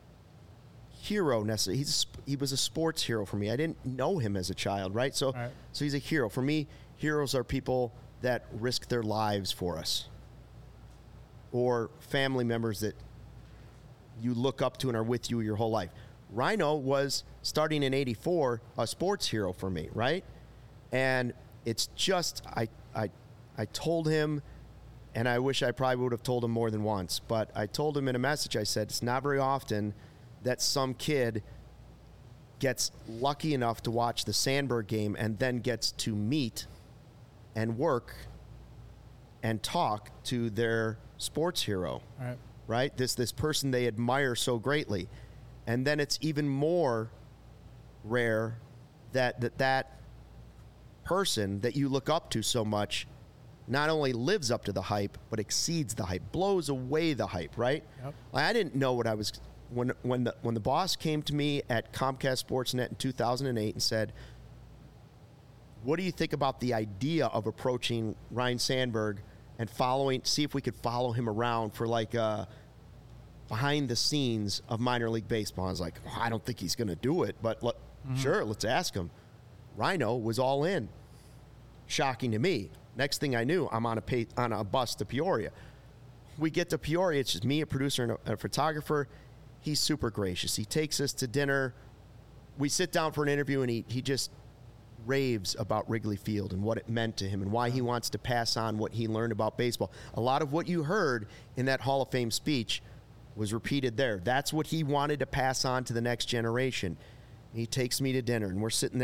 hero necessarily. He's, he was a sports hero for me. I didn't know him as a child, right? So, right. so he's a hero. For me, heroes are people that risk their lives for us, or family members that you look up to and are with you your whole life. Rhino was, starting in eighty-four, a sports hero for me, right? And it's just, I, I, I told him, and I wish I probably would have told him more than once, but I told him in a message, I said, it's not very often that some kid gets lucky enough to watch the Sandberg game and then gets to meet and work and talk to their sports hero, Right. right? This this person they admire so greatly. And then it's even more rare that that, that person that you look up to so much not only lives up to the hype, but exceeds the hype, blows away the hype, right? Yep. Like, I didn't know what I was, when when the, when the boss came to me at Comcast Sportsnet in two thousand eight and said, what do you think about the idea of approaching Ryne Sandberg and following, see if we could follow him around for like uh, behind the scenes of minor league baseball? I was like, well, I don't think he's going to do it, but let, mm-hmm. sure, let's ask him. Rhino was all in. Shocking to me. Next thing I knew, I'm on a pay, on a bus to Peoria. We get to Peoria, it's just me, a producer, and a, a photographer. He's super gracious. He takes us to dinner. We sit down for an interview, and he he just raves about Wrigley Field and what it meant to him and why he wants to pass on what he learned about baseball. A lot of what you heard in that Hall of Fame speech was repeated there. That's what he wanted to pass on to the next generation. He takes me to dinner, and we're sitting there, and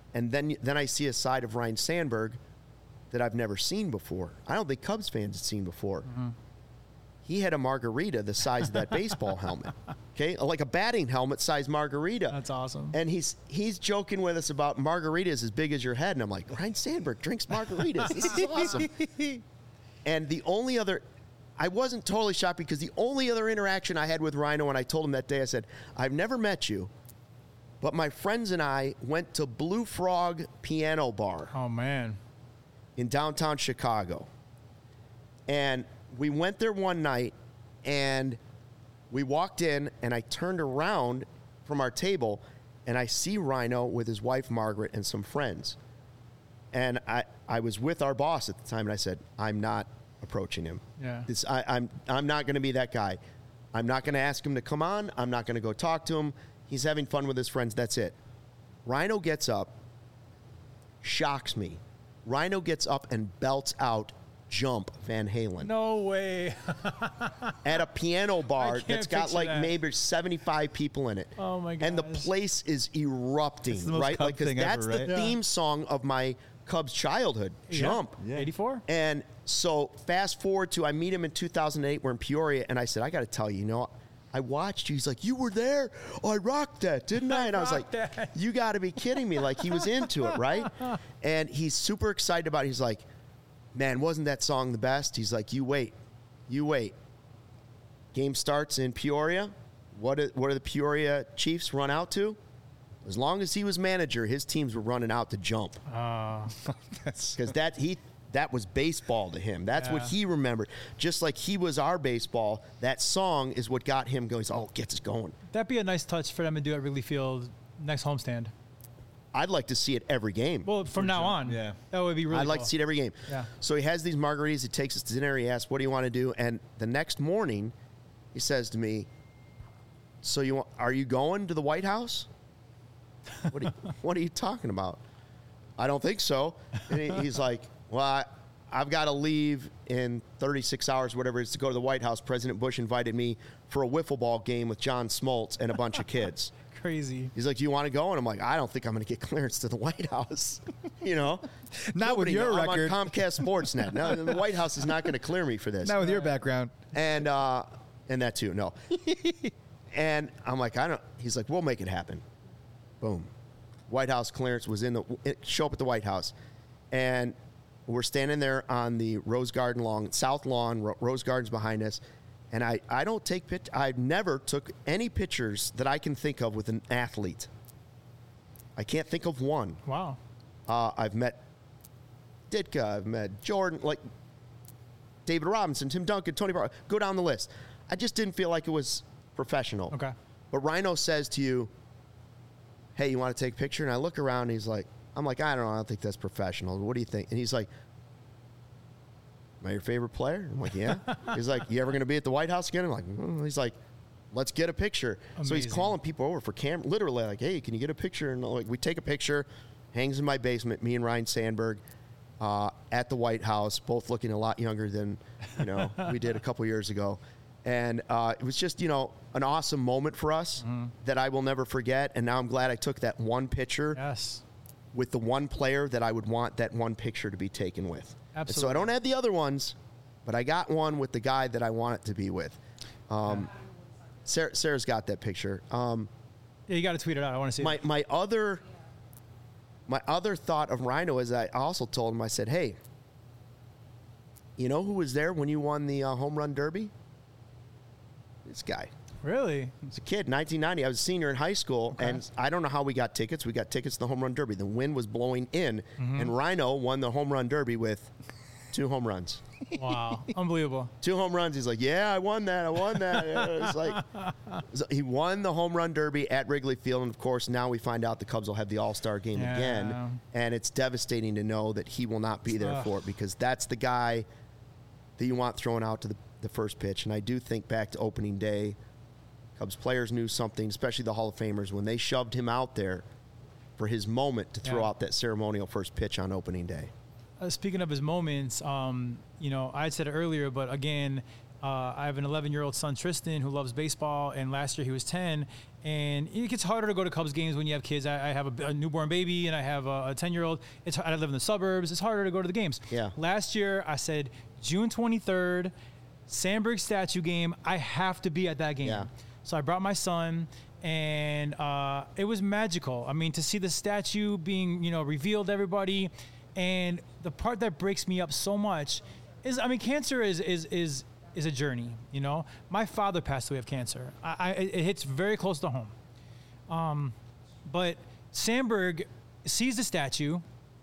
And then then I see a side of Ryne Sandberg that I've never seen before. I don't think Cubs fans had seen before. Mm-hmm. He had a margarita the size of that baseball helmet. Okay, like a batting helmet size margarita. That's awesome. And he's he's joking with us about margaritas as big as your head, and I'm like, Ryne Sandberg drinks margaritas. This is awesome. And the only other, I wasn't totally shocked because the only other interaction I had with Rhino, and I told him that day, I said, I've never met you, but my friends and I went to Blue Frog Piano Bar. Oh man. In downtown Chicago, and we went there one night, and we walked in, and I turned around from our table, and I see Rhino with his wife, Margaret, and some friends. And I, I was with our boss at the time, and I said, I'm not approaching him. Yeah. This, I, I'm, I'm not going to be that guy. I'm not going to ask him to come on. I'm not going to go talk to him. He's having fun with his friends. That's it. Rhino gets up, shocks me. Rhino gets up and belts out Jump Van Halen. No way. At a piano bar that's got like that. maybe seventy-five people in it. Oh my god. And the place is erupting, the most right? Cub Like, 'cause thing that's ever, the right? theme song of my Cubs childhood, Jump. Yeah. eighty-four? And so fast forward to I meet him in two thousand eight. We're in Peoria, and I said, I got to tell you, you know, I watched you. He's like, you were there? Oh, I rocked that, didn't I? And I was like, that. you got to be kidding me. Like, he was into it, right? And he's super excited about it. He's like, man, wasn't that song the best? He's like, you wait. You wait. Game starts in Peoria. What do, what do the Peoria Chiefs run out to? As long as he was manager, his teams were running out to Jump. Uh, Because that he that was baseball to him. That's what Yeah. he remembered. Just like he was our baseball, that song is what got him going. He's, oh, gets us going. that'd be a nice touch for them to do at Wrigley Field next homestand. I'd like to see it every game. Well, from now on, Yeah. that would be really I'd like cool. to see it every game. Yeah. So he has these margaritas. He takes us to dinner. He asks, what do you want to do? And the next morning, he says to me, so you want, are you going to the White House? What are you, what are you talking about? I don't think so. And he, he's like, well, I, I've got to leave in thirty-six hours, whatever it is, to go to the White House. President Bush invited me for a wiffle ball game with John Smoltz and a bunch of kids. Crazy. He's like, do you want to go? And I'm like, I don't think I'm going to get clearance to the White House. You know? Not with Nobody your knows. record. I'm on Comcast Sportsnet. No, the White House is not going to clear me for this. Not with your background. And uh, and that too, no. And I'm like, I don't. He's like, we'll make it happen. Boom. White House clearance was in the. It, show up at the White House, and we're standing there on the Rose Garden lawn, South Lawn. Ro- Rose Garden's behind us, and I I don't take pic. I've never took any pictures that I can think of with an athlete. I can't think of one. Wow. Uh, I've met Ditka. I've met Jordan, like David Robinson, Tim Duncan, Tony Barber. Go down the list. I just didn't feel like it was professional. Okay. But Rhino says to you, hey, you want to take a picture? And I look around and he's like, I'm like, I don't know. I don't think that's professional. What do you think? And he's like, am I your favorite player? I'm like, yeah. He's like, you ever going to be at the White House again? I'm like, mm. He's like, let's get a picture. So he's Amazing. calling people over for camera, literally like, hey, can you get a picture? And like, we take a picture, hangs in my basement, me and Ryne Sandberg uh, at the White House, both looking a lot younger than, you know, we did a couple years ago. And uh, it was just, you know, an awesome moment for us Mm-hmm. that I will never forget. And now I'm glad I took that one picture Yes. with the one player that I would want that one picture to be taken with. And so I Absolutely. don't have the other ones, but I got one with the guy that I want it to be with. Um, Sarah, Sarah's got that picture. Um, Yeah, you got to tweet it out. I want to see my it. my other my other thought of Rhino is I also told him, I said, hey, you know who was there when you won the uh, home run derby? This guy. Really? As a kid, nineteen ninety, I was a senior in high school, Okay. and I don't know how we got tickets. We got tickets to the home run derby. The wind was blowing in, Mm-hmm. and Rhino won the home run derby with two home runs. Wow. Unbelievable. Two home runs. He's like, yeah, I won that. I won that. It's like so he won the home run derby at Wrigley Field, and of course, now we find out the Cubs will have the All-Star game Yeah. again, and it's devastating to know that he will not be there Ugh. for it because that's the guy that you want thrown out to the, the first pitch. And I do think back to opening day, Cubs players knew something, especially the Hall of Famers, when they shoved him out there for his moment to throw Yeah. out that ceremonial first pitch on opening day. Uh, speaking of his moments, um, you know, I said it earlier, but again, Uh, I have an eleven-year-old son, Tristan, who loves baseball, and last year he was ten. And it gets harder to go to Cubs games when you have kids. I, I have a, a newborn baby, and I have a ten-year-old. It's I live in the suburbs. It's harder to go to the games. Yeah. Last year, I said June twenty-third, Sandberg statue game. I have to be at that game. Yeah. So I brought my son, and uh, it was magical. I mean, to see the statue being, you know, revealed to everybody, and the part that breaks me up so much is, I mean, cancer is is is is a journey. You know, my father passed away of cancer. I, I it hits very close to home. Um, but Sandberg sees the statue,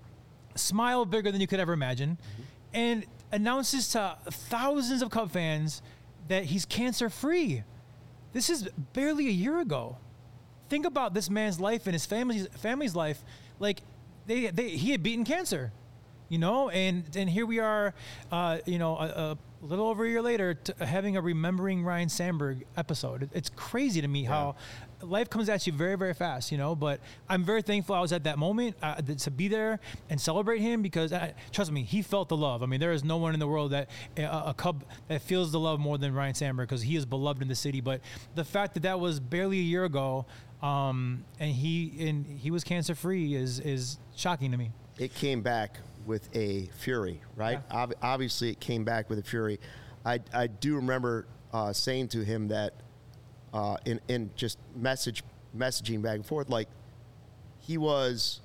smile bigger than you could ever imagine, mm-hmm. and announces to thousands of Cub fans that he's cancer free. This is barely a year ago. Think about this man's life and his family's family's life. Like, they, they he had beaten cancer, you know, and and here we are, uh, you know, a, a little over a year later, t- having a Remembering Ryne Sandberg episode. It, it's crazy to me yeah. how life comes at you very, very fast, you know. But I'm very thankful I was at that moment uh, to be there and celebrate him, because uh, trust me, he felt the love. I mean, there is no one in the world that uh, a Cub that feels the love more than Ryne Sandberg, because he is beloved in the city. But the fact that that was barely a year ago, um, and he and he was cancer free is is shocking to me. It came back with a fury, right? Yeah. Ob- obviously, it came back with a fury. I I do remember uh, saying to him that uh, in in just message messaging back and forth, like, he was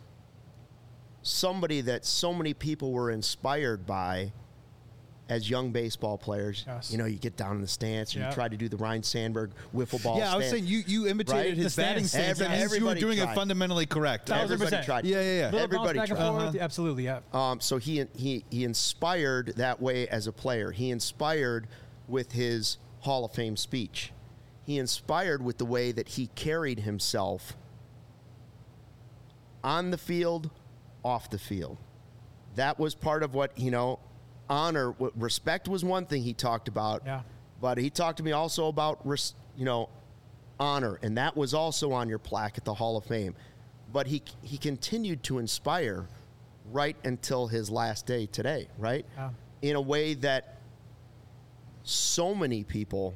somebody that so many people were inspired by as young baseball players. Yes. You know, you get down in the stance and Yep. you try to do the Ryne Sandberg wiffle ball. Yeah, I was stance. saying you, you imitated Right? his The batting stance. stance. That Every- means you were everybody doing tried. it fundamentally correct. Thousand Everybody percent. tried. Yeah, yeah, yeah. Little Everybody bounce back and tried. forth. Uh-huh. Absolutely, yeah. Um, so he he he inspired that way as a player. He inspired with his Hall of Fame speech. He inspired with the way that he carried himself on the field, off the field. That was part of what, you know, honor, what, respect was one thing he talked about. Yeah. But he talked to me also about, res, you know, honor, and that was also on your plaque at the Hall of Fame. But he he continued to inspire right until his last day today, right? Yeah. In a way that so many people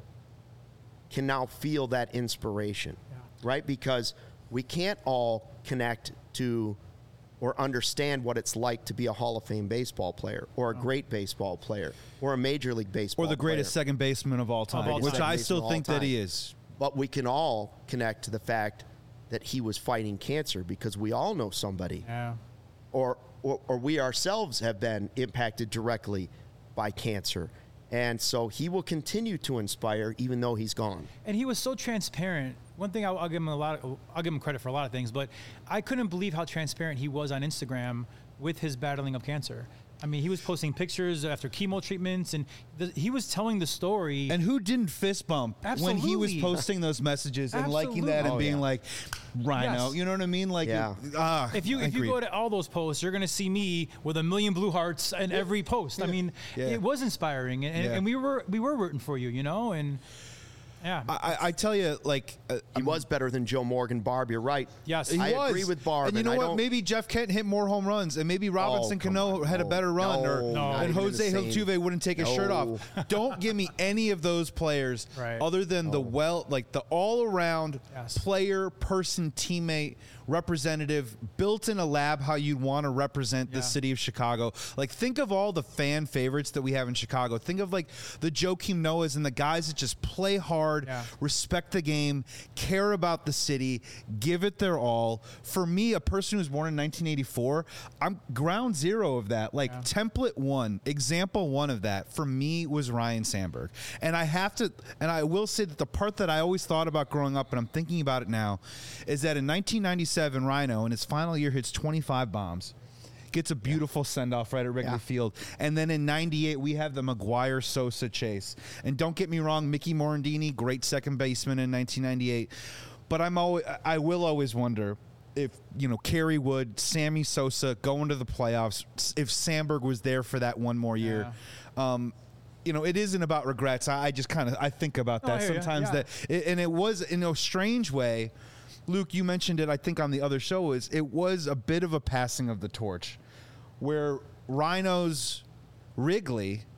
can now feel that inspiration, Yeah. right? Because we can't all connect to or understand what it's like to be a Hall of Fame baseball player, or a great baseball player, or a Major League Baseball Or the greatest player. second baseman of all time, all which time. I Baseman still of all think that he time. is. But we can all connect to the fact that he was fighting cancer, because we all know somebody, Yeah. or, or or we ourselves have been impacted directly by cancer. And so he will continue to inspire even though he's gone. And he was so transparent. One thing I'll, I'll give him a lot. Of, I'll give him credit for a lot of things, but I couldn't believe how transparent he was on Instagram with his battling of cancer. I mean, he was posting pictures after chemo treatments, and the, he was telling the story. And who didn't fist bump when he was Absolutely. posting those messages and liking that Absolutely. and Oh, being yeah. like, Rhino, Yes. you know what I mean? Like, Yeah. it- ah, if you I if you agree. go to all those posts, you're gonna see me with a million blue hearts in every post. I mean, Yeah. it was inspiring, and, Yeah. and we were we were rooting for you, you know, and yeah, I, I tell you, like, uh, He was better than Joe Morgan. Barb, you're right. Yes. he I was. agree with Barb. And you know I what? don't- Maybe Jeff Kent hit more home runs, and maybe Robinson Oh, come Cano on. had a No. better run, No, or not and even Jose the same. Altuve wouldn't take his shirt No. off. Don't give me any of those players, Right. other than the well, like the all-around Yes. player, person, teammate, representative, built in a lab how you'd want to represent the Yeah. city of Chicago. Like, think of all the fan favorites that we have in Chicago. Think of like the Joakim Noahs and the guys that just play hard, Yeah. respect the game, care about the city, give it their all. For me, a person who's born in nineteen eighty-four, I'm ground zero of that. Like, Yeah. template one, example one of that for me was Ryne Sandberg. And I have to, and I will say that the part that I always thought about growing up, and I'm thinking about it now, is that in nineteen ninety-seven, Rhino in his final year hits twenty-five bombs. Gets a beautiful send-off right at Wrigley Yeah. Field. And then in ninety-eight, we have the McGuire-Sosa chase. And don't get me wrong, Mickey Morandini, great second baseman in nineteen ninety-eight. But I'm always, I will always wonder if, you know, Kerry Wood, Sammy Sosa going to the playoffs, if Sandberg was there for that one more year. Um, you know, it isn't about regrets. I, I just kind of, I think about No, I that hear ya. sometimes. Yeah. That, and it was, in a strange way, Luke, you mentioned it, I think, on the other show, is it was a bit of a passing of the torch, where Rhino's Wrigley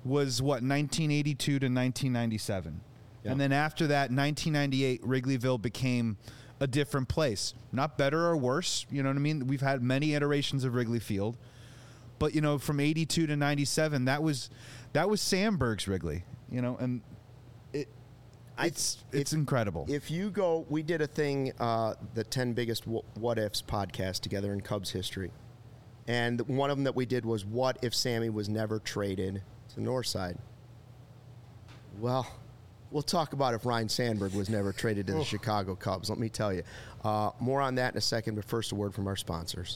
was what, nineteen eighty-two to nineteen ninety-seven. Yeah. And then after that, nineteen ninety-eight, Wrigleyville became a different place. Not better or worse, you know what I mean? We've had many iterations of Wrigley Field. But, you know, from eighty-two to ninety-seven, that was that was Sandberg's Wrigley, you know, and it it's I, it's if, incredible. If you go, we did a thing, uh, the ten biggest what ifs podcast together in Cubs history. And one of them that we did was, what if Sammy was never traded to Northside? Well, we'll talk about if Ryne Sandberg was never traded to the Chicago Cubs. Let me tell you. Uh, more on that in a second, but first a word from our sponsors.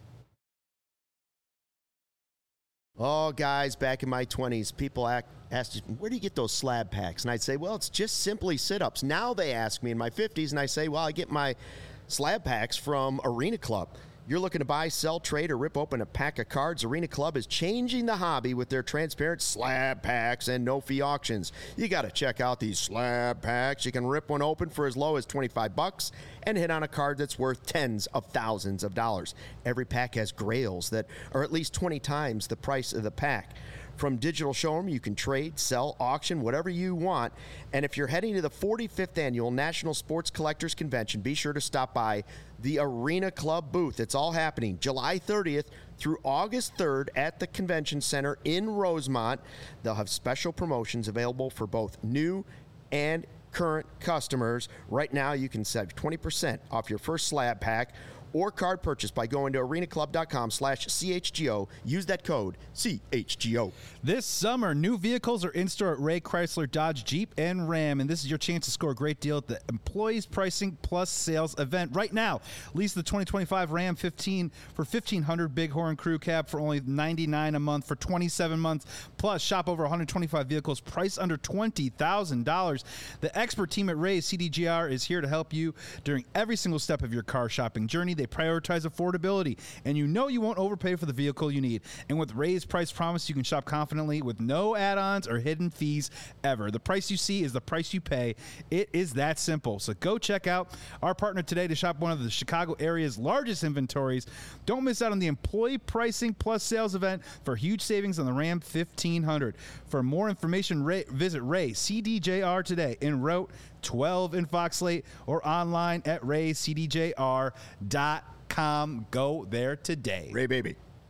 Oh, guys, back in my twenties, people act, asked, where do you get those slab packs? And I'd say, well, it's just simply sit-ups. Now they ask me in my fifties, and I say, well, I get my slab packs from Arena Club. You're looking to buy, sell, trade, or rip open a pack of cards? Arena Club is changing the hobby with their transparent slab packs and no-fee auctions. You got to check out these slab packs. You can rip one open for as low as twenty-five bucks and hit on a card that's worth tens of thousands of dollars. Every pack has grails that are at least twenty times the price of the pack. From digital showroom, you can trade, sell, auction, whatever you want. And if you're heading to the forty-fifth Annual National Sports Collectors Convention, be sure to stop by the Arena Club booth. It's all happening July thirtieth through August third at the Convention Center in Rosemont. They'll have special promotions available for both new and current customers. Right now, you can save twenty percent off your first slab pack or card purchase by going to arenaclub.com slash CHGO. Use that code C H G O. This summer, new vehicles are in store at Ray Chrysler, Dodge, Jeep, and Ram, and this is your chance to score a great deal at the Employees Pricing Plus Sales event. Right now, lease the twenty twenty-five Ram fifteen for fifteen hundred dollars Bighorn Crew Cab for only ninety-nine dollars a month for twenty-seven months. Plus, shop over one hundred twenty-five vehicles priced under twenty thousand dollars. The expert team at Ray C D G R is here to help you during every single step of your car shopping journey. They prioritize affordability, and you know you won't overpay for the vehicle you need. And with Ray's price promise, you can shop confidently with no add-ons or hidden fees ever. The price you see is the price you pay. It is that simple. So go check out our partner today to shop one of the Chicago area's largest inventories. Don't miss out on the Employee Pricing Plus Sales event for huge savings on the Ram fifteen hundred. For more information, Ray, visit Ray C D J R today in Route twelve in Fox Lake or online at ray c d j r dot com. Go there today. Ray baby.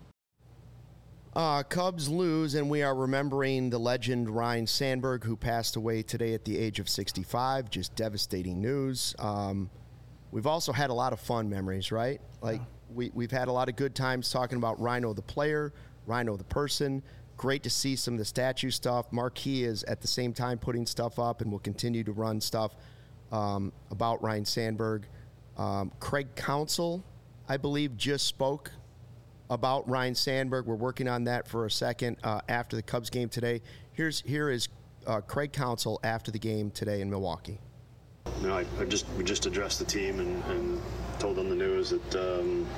Uh, Cubs lose, and we are remembering the legend Ryne Sandberg, who passed away today at the age of sixty-five. Just devastating news. Um, we've also had a lot of fun memories, right? Like, yeah. we, we've had a lot of good times talking about Rhino the player, Rhino the person. Great to see some of the statue stuff. Marquee is at the same time putting stuff up and will continue to run stuff um, about Ryne Sandberg. Um, Craig Counsell, I believe, just spoke about Ryne Sandberg. We're working on that for a second uh, after the Cubs game today. Here's here is uh, Craig Counsell after the game today in Milwaukee. You know, I, I just we just addressed the team and, and told them the news that um,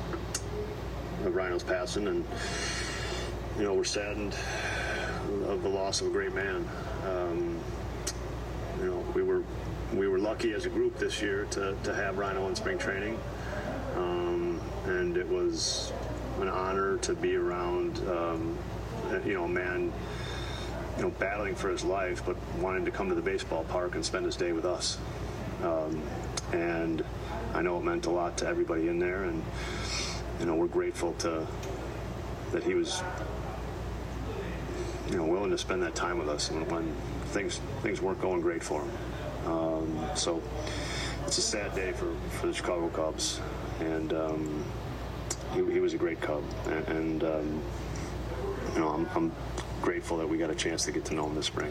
Rhino's passing, and you know, we're saddened of the loss of a great man. Um, you know, we were we were lucky as a group this year to, to have Rhino in spring training, um, and it was an honor to be around, um, you know, a man, you know, battling for his life, but wanting to come to the baseball park and spend his day with us. Um, and I know it meant a lot to everybody in there, and you know, we're grateful to that he was, you know, willing to spend that time with us when, when things things weren't going great for him. Um, so it's a sad day for, for the Chicago Cubs, and um, he, he was a great Cub, and, and um, you know, I'm, I'm grateful that we got a chance to get to know him this spring.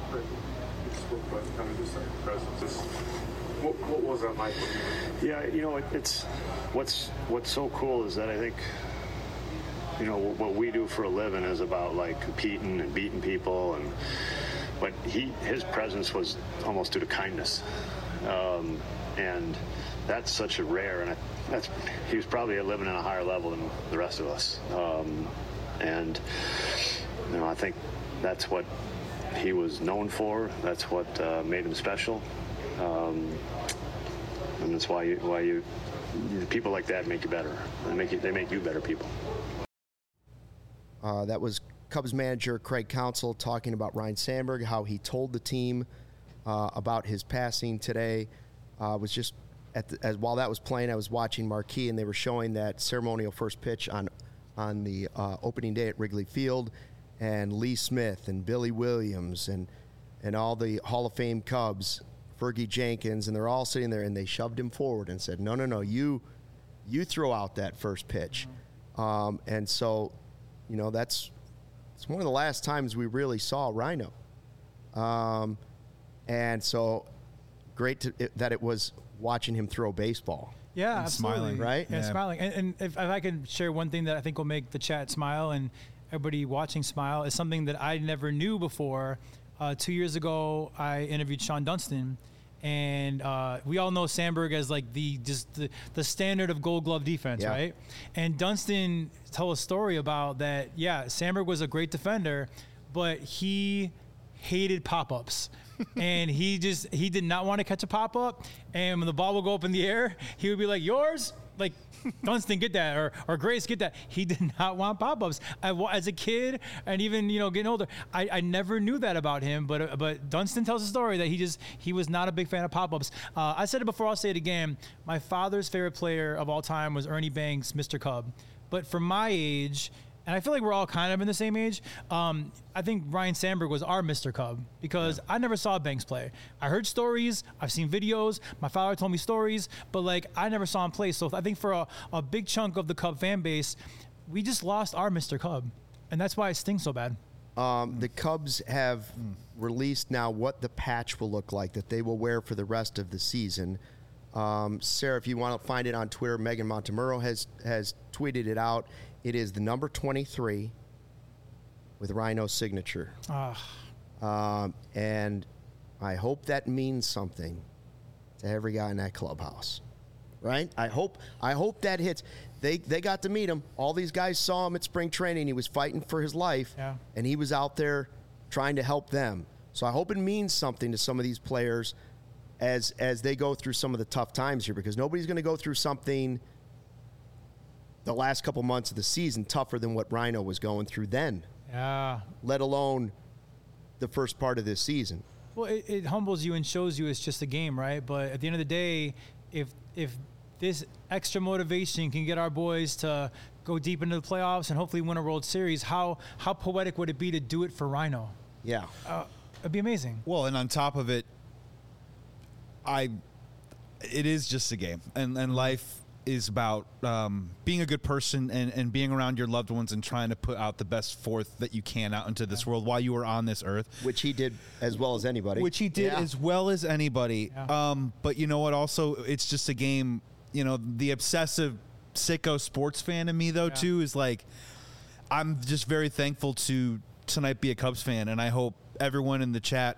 What, what was that like? Yeah, you know, it, it's what's what's so cool is that I think, you know, what we do for a living is about like competing and beating people, and but he his presence was almost due to kindness, um, and that's such a rare, and I, that's he was probably living at a higher level than the rest of us, um, and you know, I think that's what he was known for. That's what uh, made him special, um, and that's why you, why you people like that make you better. They make you they make you better people. Uh, that was Cubs manager Craig Counsell talking about Ryne Sandberg, how he told the team uh, about his passing today. Uh, was just at the, as while that was playing, I was watching Marquee, and they were showing that ceremonial first pitch on on the uh, opening day at Wrigley Field, and Lee Smith and Billy Williams and and all the Hall of Fame Cubs, Fergie Jenkins, and they're all sitting there, and they shoved him forward and said, "No, no, no, you you throw out that first pitch," mm-hmm. um, and so, you know, that's it's one of the last times we really saw Ryno, um, and so great to, it, that it was watching him throw baseball. Yeah, and absolutely. smiling, right? Yeah, Yeah. smiling. And, and if, if I can share one thing that I think will make the chat smile and everybody watching smile, is something that I never knew before. Uh, two years ago, I interviewed Sean Dunston, and uh, we all know Sandberg as like the just the, the standard of Gold Glove defense, Yeah. right? And Dunston told a story about that. Yeah, Sandberg was a great defender, but he hated pop-ups. And he just he did not want to catch a pop-up, and when the ball would go up in the air, he would be like, "Yours?" Like, Dunston, get that, or or Grace, get that. He did not want pop-ups. I, as a kid, and even, you know, getting older, I, I never knew that about him. But uh, but Dunston tells a story that he just he was not a big fan of pop-ups. Uh, I said it before, I'll say it again. My father's favorite player of all time was Ernie Banks, Mister Cub. But for my age, and I feel like we're all kind of in the same age, um, I think Ryne Sandberg was our Mister Cub, because yeah. I never saw Banks play. I heard stories, I've seen videos, my father told me stories, but like I never saw him play. So I think for a, a big chunk of the Cub fan base, we just lost our Mister Cub, and that's why it stings so bad. Um, the Cubs have mm. released now what the patch will look like that they will wear for the rest of the season. Um, Sarah, if you want to find it on Twitter, Megan Montemurro has has tweeted it out. It is the number twenty-three with Ryno's signature. Uh. Um, and I hope that means something to every guy in that clubhouse, right? I hope I hope that hits. They they got to meet him. All these guys saw him at spring training. He was fighting for his life, yeah. and he was out there trying to help them. So I hope it means something to some of these players as as they go through some of the tough times here, because nobody's going to go through something the last couple months of the season tougher than what Ryno was going through then. Yeah. Let alone the first part of this season. Well, it, it humbles you and shows you it's just a game, right? But at the end of the day, if if this extra motivation can get our boys to go deep into the playoffs and hopefully win a World Series, how how poetic would it be to do it for Ryno? Yeah. Uh, it'd be amazing. Well, and on top of it, I, it is just a game, and and life is about um, being a good person and, and being around your loved ones and trying to put out the best forth that you can out into this world while you are on this earth. Which he did as well as anybody. Which he did yeah. as well as anybody. Yeah. Um, but you know what? Also, it's just a game. You know, the obsessive sicko sports fan in me, though, yeah. too, is like, I'm just very thankful to tonight be a Cubs fan, and I hope everyone in the chat,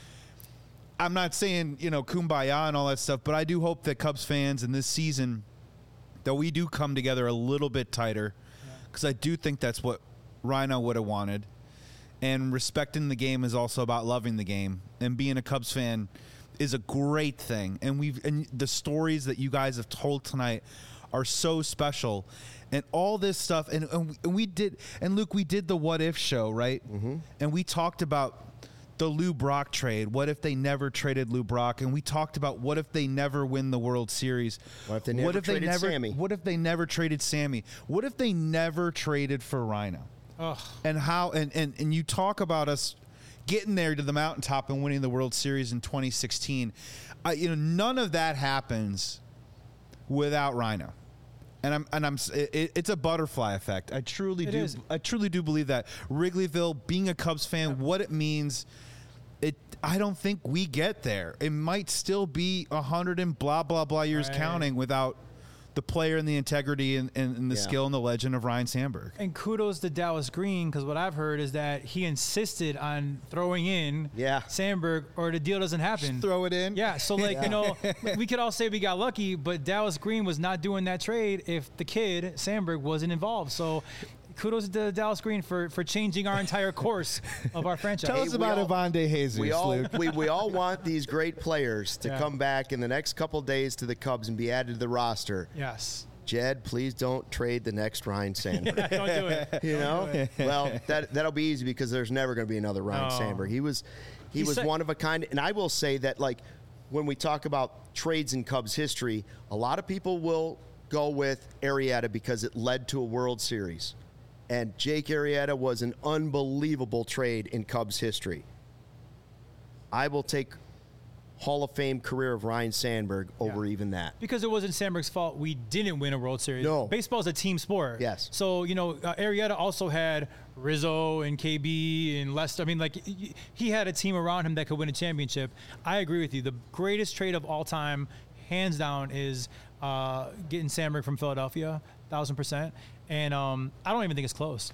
I'm not saying, you know, kumbaya and all that stuff, but I do hope that Cubs fans in this season, that we do come together a little bit tighter, because yeah. I do think that's what Ryno would have wanted. And respecting the game is also about loving the game. And being a Cubs fan is a great thing. And we've and the stories that you guys have told tonight are so special. And all this stuff, and, and, we, and we did, and Luke, we did the What If show, right? Mm-hmm. And we talked about the Lou Brock trade. What if they never traded Lou Brock? And we talked about what if they never win the World Series? What if they never what if traded they never, Sammy? What if they never traded Sammy? What if they never traded for Ryno? Ugh. And how? And, and and you talk about us getting there to the mountaintop and winning the World Series in twenty sixteen. I, you know, none of that happens without Ryno. And I'm and I'm it, it's a butterfly effect. I truly It do. is. I truly do believe that Wrigleyville, being a Cubs fan, Yep. what it means. It. I don't think we get there. It might still be a hundred and blah blah blah years Right. counting without the player and the integrity and, and, and the Yeah. skill and the legend of Ryne Sandberg. And kudos to Dallas Green, because what I've heard is that he insisted on throwing in Yeah. Sandberg or the deal doesn't happen. Throw it in. Yeah, so like, Yeah. you know, we could all say we got lucky, but Dallas Green was not doing that trade if the kid, Sandberg, wasn't involved. So kudos to Dallas Green for, for changing our entire course of our franchise. Tell Hey, us we about all- Ivan De Jesus, We all Luke. we, we all want these great players to Yeah. come back in the next couple days to the Cubs and be added to the roster. Yes. Jed, please don't trade the next Ryan Sandberg. Yeah, don't do it. You Don't know, do it. well, that that'll be easy because there's never going to be another Ryan No. Sandberg. He was, he, He was said- one of a kind. And I will say that, like, when we talk about trades in Cubs history, a lot of people will go with Arrieta because it led to a World Series, and Jake Arrieta was an unbelievable trade in Cubs history. I will take Hall of Fame career of Ryan Sandberg over Yeah. even that. Because it wasn't Sandberg's fault we didn't win a World Series. No. Baseball is a team sport. Yes. So, you know, uh, Arrieta also had Rizzo and K B and Lester. I mean, like, y- he had a team around him that could win a championship. I agree with you. The greatest trade of all time, hands down, is uh, getting Sandberg from Philadelphia, thousand percent. And um, I don't even think it's close.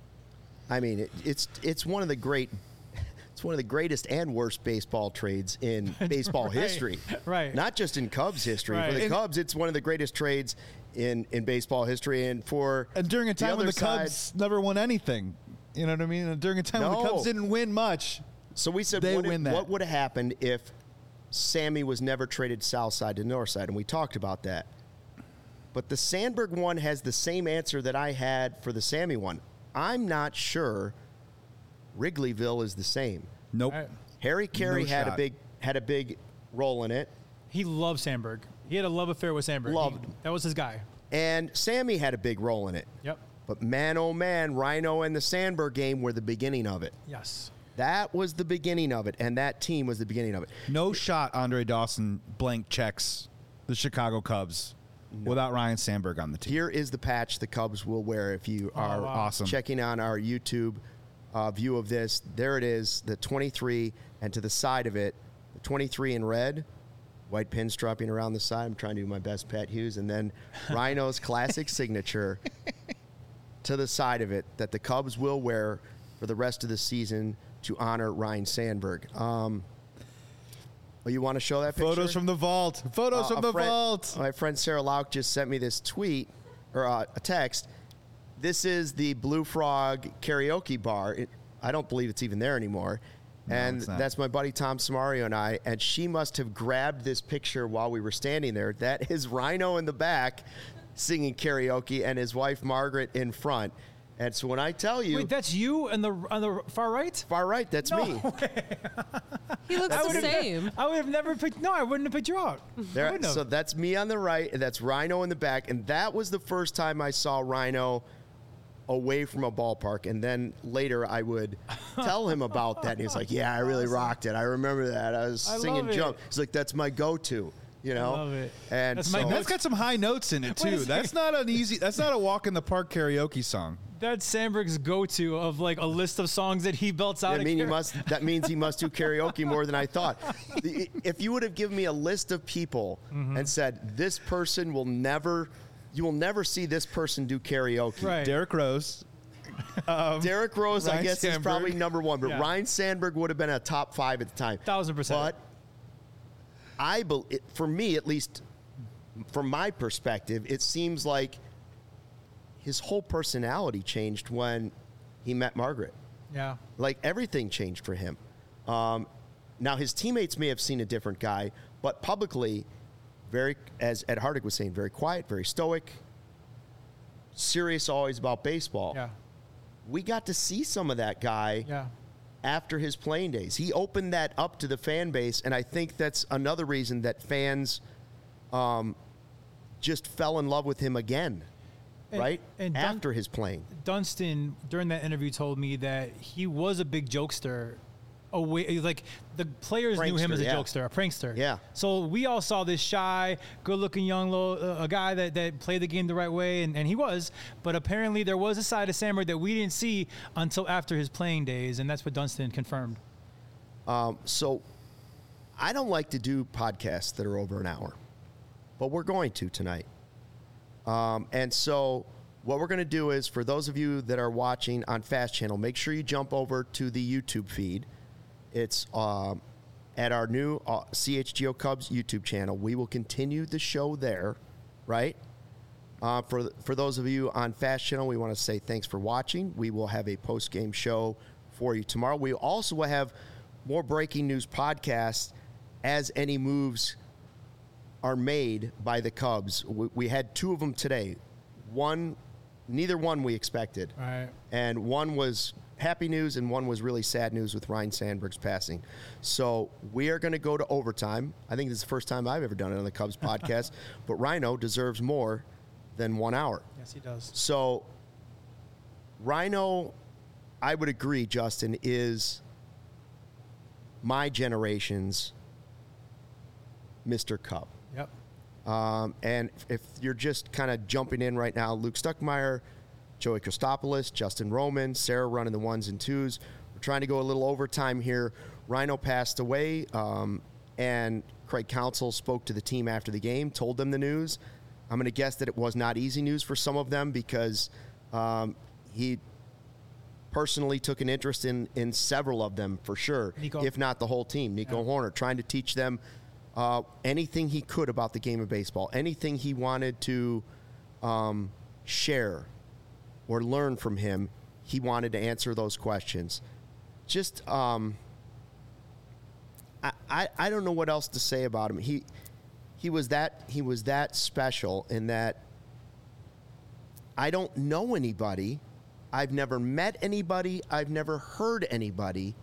I mean, it, it's it's one of the great, it's one of the greatest and worst baseball trades in baseball Right, history. right. Not just in Cubs history. Right. For the And- Cubs, it's one of the greatest trades in, in baseball history. And for And during a time when other the Cubs side- never won anything. You know what I mean? And during a time when the No. Cubs didn't win much. So we said, They what, win if- that. what would have happened if Sammy was never traded south side to north side? And we talked about that. But the Sandberg one has the same answer that I had for the Sammy one. I'm not sure Wrigleyville is the same. Nope. All right. Harry Carey No had a shot. big had a big role in it, He loved Sandberg. He had a love affair with Sandberg. Loved He- him. That was his guy. and Sammy had a big role in it. Yep. But man, oh man, Rhino and the Sandberg game were the beginning of it. Yes. That was the beginning of it, and that team was the beginning of it. No shot Andre Dawson blank checks the Chicago Cubs without Ryan Sandberg on the team. Here is the patch the Cubs will wear if you are wow. Awesome. checking on our YouTube uh, view of this. There it is, the twenty-three, and to the side of it, the twenty-three in red, white pinstriping around the side. I'm trying to do my best, Pat Hughes, and then Rhino's classic signature to the side of it that the Cubs will wear for the rest of the season to honor Ryan Sandberg. Um, well, you want to show that picture? Photos from the vault. Photos Uh, from a the friend- vault. My friend Sarah Lauk just sent me this tweet or uh, a text. This is the Blue Frog karaoke bar. It, I don't believe it's even there anymore. No, and it's not. that's my buddy Tom Samario and I. And she must have grabbed this picture while we were standing there. That is Rhino in the back singing karaoke and his wife Margaret in front. And so when I tell you, Wait, that's you on the on the far right? far right, that's No me. He looks I the would have same. I would have never picked. No, I wouldn't have picked you out. I There, wouldn't have. so that's me on the right, and that's Rhino in the back. And that was the first time I saw Rhino away from a ballpark. And then later I would tell him about that. And he's like, yeah, I really rocked it. I remember that. I was I singing love Jump. it. He's like, that's my go-to, you know? love it. And That's so, my That's got some high notes in it Wait a too. second. That's not an easy. That's not a walk in the park karaoke song. That's Sandberg's go-to of like a list of songs that he belts out. I at mean, you karaoke. must. That means he must do karaoke more than I thought. The- If you would have given me a list of people Mm-hmm. and said, this person will never, you will never see this person do karaoke. Right. Derek Rose. Derek Rose, I Ryan guess, is Sandberg. probably number one, but Yeah. Ryan Sandberg would have been a top five at the time. Thousand percent. But I, bel it, for me at least, from my perspective, it seems like his whole personality changed when he met Margaret. Yeah. Like everything changed for him. Um, now his teammates may have seen a different guy, but publicly, very, as Ed Hardig was saying, very quiet, very stoic, serious always about baseball. Yeah. We got to see some of that guy Yeah. after his playing days. He opened that up to the fan base, and I think that's another reason that fans um, just fell in love with him again, And- right? and Dun- after his playing. Dunston during that interview told me that he was a big jokester. Away, like the players knew him Prankster, as a yeah. jokester, a prankster. Yeah. So we all saw this shy, good-looking young little uh, a guy that, that played the game the right way, and, and he was. But apparently there was a side of Sandberg that we didn't see until after his playing days, and that's what Dunston confirmed. So I don't like to do podcasts that are over an hour, but we're going to tonight. Um, and so what we're going to do is, for those of you that are watching on Fast Channel, make sure you jump over to the YouTube feed. It's um, at our new uh, C H G O Cubs YouTube channel. We will continue the show there, right? Uh, for for those of you on Fast Channel, we want to say thanks for watching. We will have a post-game show for you tomorrow. We also will have more breaking news podcasts as any moves are made by the Cubs. We, we had two of them today. One, neither one we expected. Right. And one was happy news and one was really sad news with Ryne Sandberg's passing. So we are going to go to overtime. I think this is the first time I've ever done it on the Cubs podcast. But Rhino deserves more than one hour. Yes, he does. So Rhino, I would agree, Justin, is my generation's Mister Cub. Yep. Um, and if you're just kind of jumping in right now, Luke Stuckmeyer, Joey Christopoulos, Justin Roman, Sarah running the ones and twos. We're trying to go a little overtime here. Rhino passed away, um, and Craig Counsell spoke to the team after the game, told them the news. I'm going to guess that it was not easy news for some of them because um, he personally took an interest in, in several of them for sure, Nico. if not the whole team. Nico Yeah. Horner, trying to teach them uh, anything he could about the game of baseball, anything he wanted to um, share or learn from him, he wanted to answer those questions. Just, um, I, I, I don't know what else to say about him. He he was that he was that special in that I don't know anybody, I've never met anybody, I've never heard anybody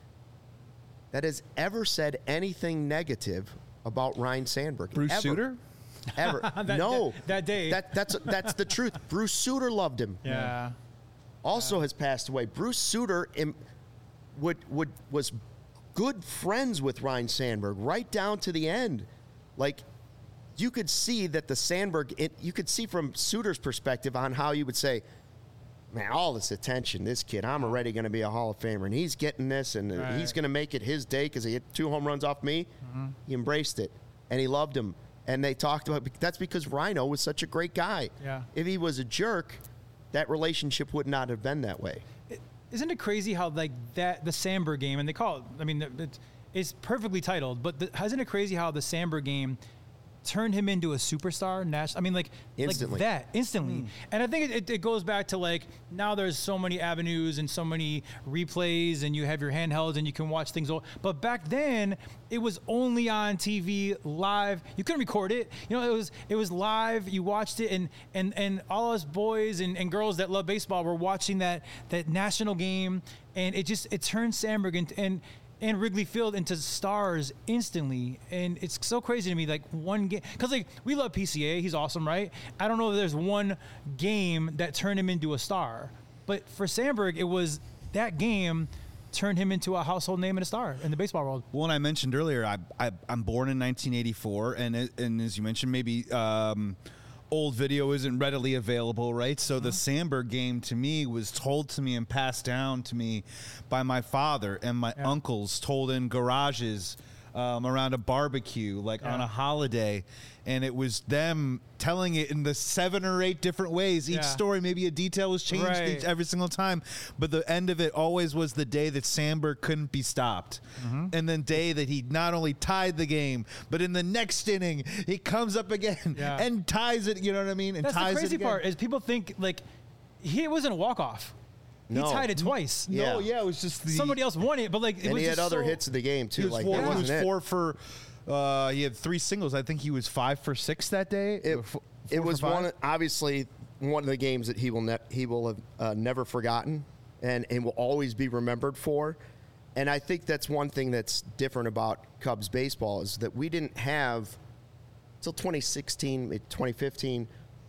that has ever said anything negative about Ryne Sandberg. Bruce ever. Sutter? Ever. That- no. that- that day. That, that's, that's the truth. Bruce Sutter loved him. Yeah. Also has passed away. Bruce Sutter im- would, would, was good friends with Ryne Sandberg right down to the end. Like, you could see that the Sandberg, it, you could see from Sutter's perspective on how you would say, man, all this attention, this kid, I'm already going to be a Hall of Famer, and he's getting this, and Right. he's going to make it his day because he hit two home runs off me. Mm-hmm. He embraced it, and he loved him. And they talked about, that's because Rhino was such a great guy. Yeah. If he was a jerk, that relationship would not have been that way. Isn't it crazy how like that the Sandberg game, and they call it, I mean, it, it's perfectly titled, but the, isn't it crazy how the Sandberg game turned him into a superstar? National, I mean, like Instantly. like that instantly. And I think it, it goes back to like now there's so many avenues and so many replays, and you have your handhelds and you can watch things. All, but back then it was only on T V live. You couldn't record it. You know, it was it was live. You watched it, and and and all us boys and, and girls that love baseball were watching that that national game, and it just it turned Sandberg into, and. and Wrigley Field into stars instantly. And it's so crazy to me, like one game, because like we love P C A, he's awesome, right? I don't know if there's one game that turned him into a star, but for Sandberg, it was that game turned him into a household name and a star in the baseball world. Well, and I mentioned earlier, I, I I'm born in nineteen eighty-four, and it- and as you mentioned, maybe um, old video isn't readily available, right? So the Sandberg game to me was told to me and passed down to me by my father and my Yeah. uncles, told in garages um, around a barbecue, like on Yeah. a holiday. And it was them telling it in the seven or eight different ways. Each Yeah. story, maybe a detail was changed Right. each, every single time. But the end of it always was the day that Sandberg couldn't be stopped. Mm-hmm. And then day that he not only tied the game, but in the next inning, he comes up again Yeah. and ties it, you know what I mean? And That's ties the it crazy again. part is people think like he it wasn't a walk-off. No. He tied it twice. Yeah. No, yeah, it was just the... Somebody else won it, but like it And was he had just other so- hits of the game, He too. was, Like, four, that he wasn't was it. four for... Uh, he had three singles. I think he was five for six that day. It, F- four it for was five? one, of- obviously, one of the games that he will ne- he will have uh, never forgotten, and, and will always be remembered for. And I think that's one thing that's different about Cubs baseball is that we didn't have until twenty sixteen, maybe twenty fifteen.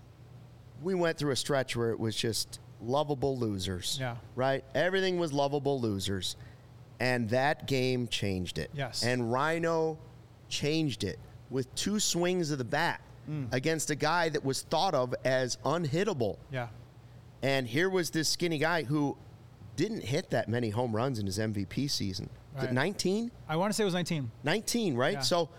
We went through a stretch where it was just lovable losers. Yeah. Right. Everything was lovable losers, and that game changed it. Yes. And Rhino changed it with two swings of the bat against a guy that was thought of as unhittable. Yeah. And here was this skinny guy who didn't hit that many home runs in his M V P season. Was it Right. nineteen? I want to say it was nineteen. nineteen, right? Yeah. So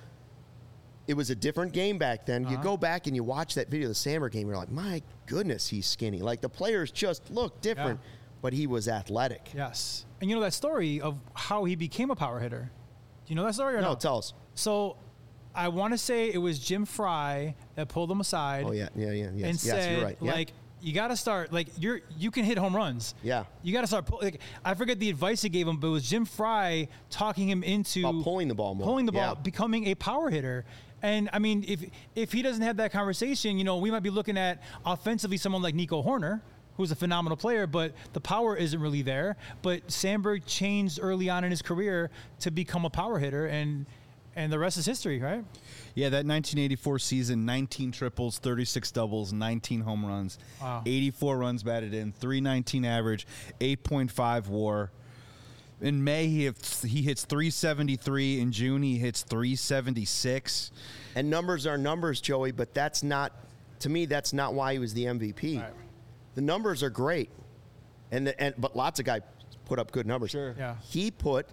it was a different game back then. You Uh-huh. go back and you watch that video of the Sandberg game, you're like, my goodness, he's skinny. Like the players just look different, Yeah. but he was athletic. Yes. And you know that story of how he became a power hitter? Do you know that story or No, no? tell us. So I want to say it was Jim Fry that pulled him aside. Oh, yeah, yeah, yeah. Yes, And yes said, you're right. Yeah. like, you got to start, like, you're, you can hit home runs. Yeah. You got to start, pull, like, I forget the advice he gave him, but it was Jim Fry talking him into About pulling the ball more. pulling the ball, Yeah. becoming a power hitter. And I mean, if if he doesn't have that conversation, you know, we might be looking at offensively someone like Nico Horner, who's a phenomenal player, but the power isn't really there. But Sandberg changed early on in his career to become a power hitter, and and the rest is history, right? Yeah, that nineteen eighty-four season, nineteen triples, thirty-six doubles, nineteen home runs, Wow. eighty-four runs batted in, three nineteen average, eight point five WAR. In May, he hits, he hits three seventy-three. In June, he hits three seventy-six. And numbers are numbers, Joey, but that's not, to me, that's not why he was the M V P. Right. The numbers are great, and the, and but lots of guys put up good numbers. Sure. Yeah. He put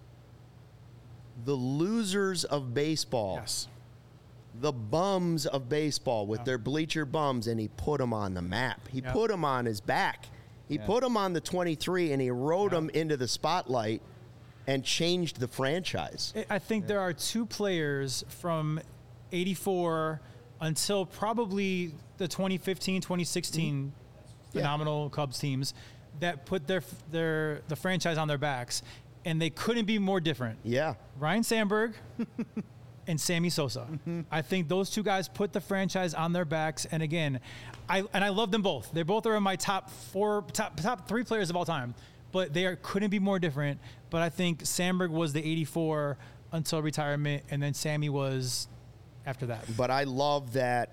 the losers of baseball, Yes. the bums of baseball with Yeah. their bleacher bums, and he put them on the map. He Yeah. put them on his back. He Yeah. put them on the twenty-three, and he rode Yeah. them into the spotlight and changed the franchise. I- I think there are two players from eighty-four until probably the twenty fifteen, twenty sixteen Yeah. phenomenal Cubs teams that put their their the franchise on their backs, and they couldn't be more different. Yeah. Ryan Sandberg and Sammy Sosa. I think those two guys put the franchise on their backs. And again, I and I love them both. They both are in my top four, top top three players of all time. But they are, couldn't be more different. But I think Sandberg was the eighty-four until retirement, and then Sammy was after that. But I love that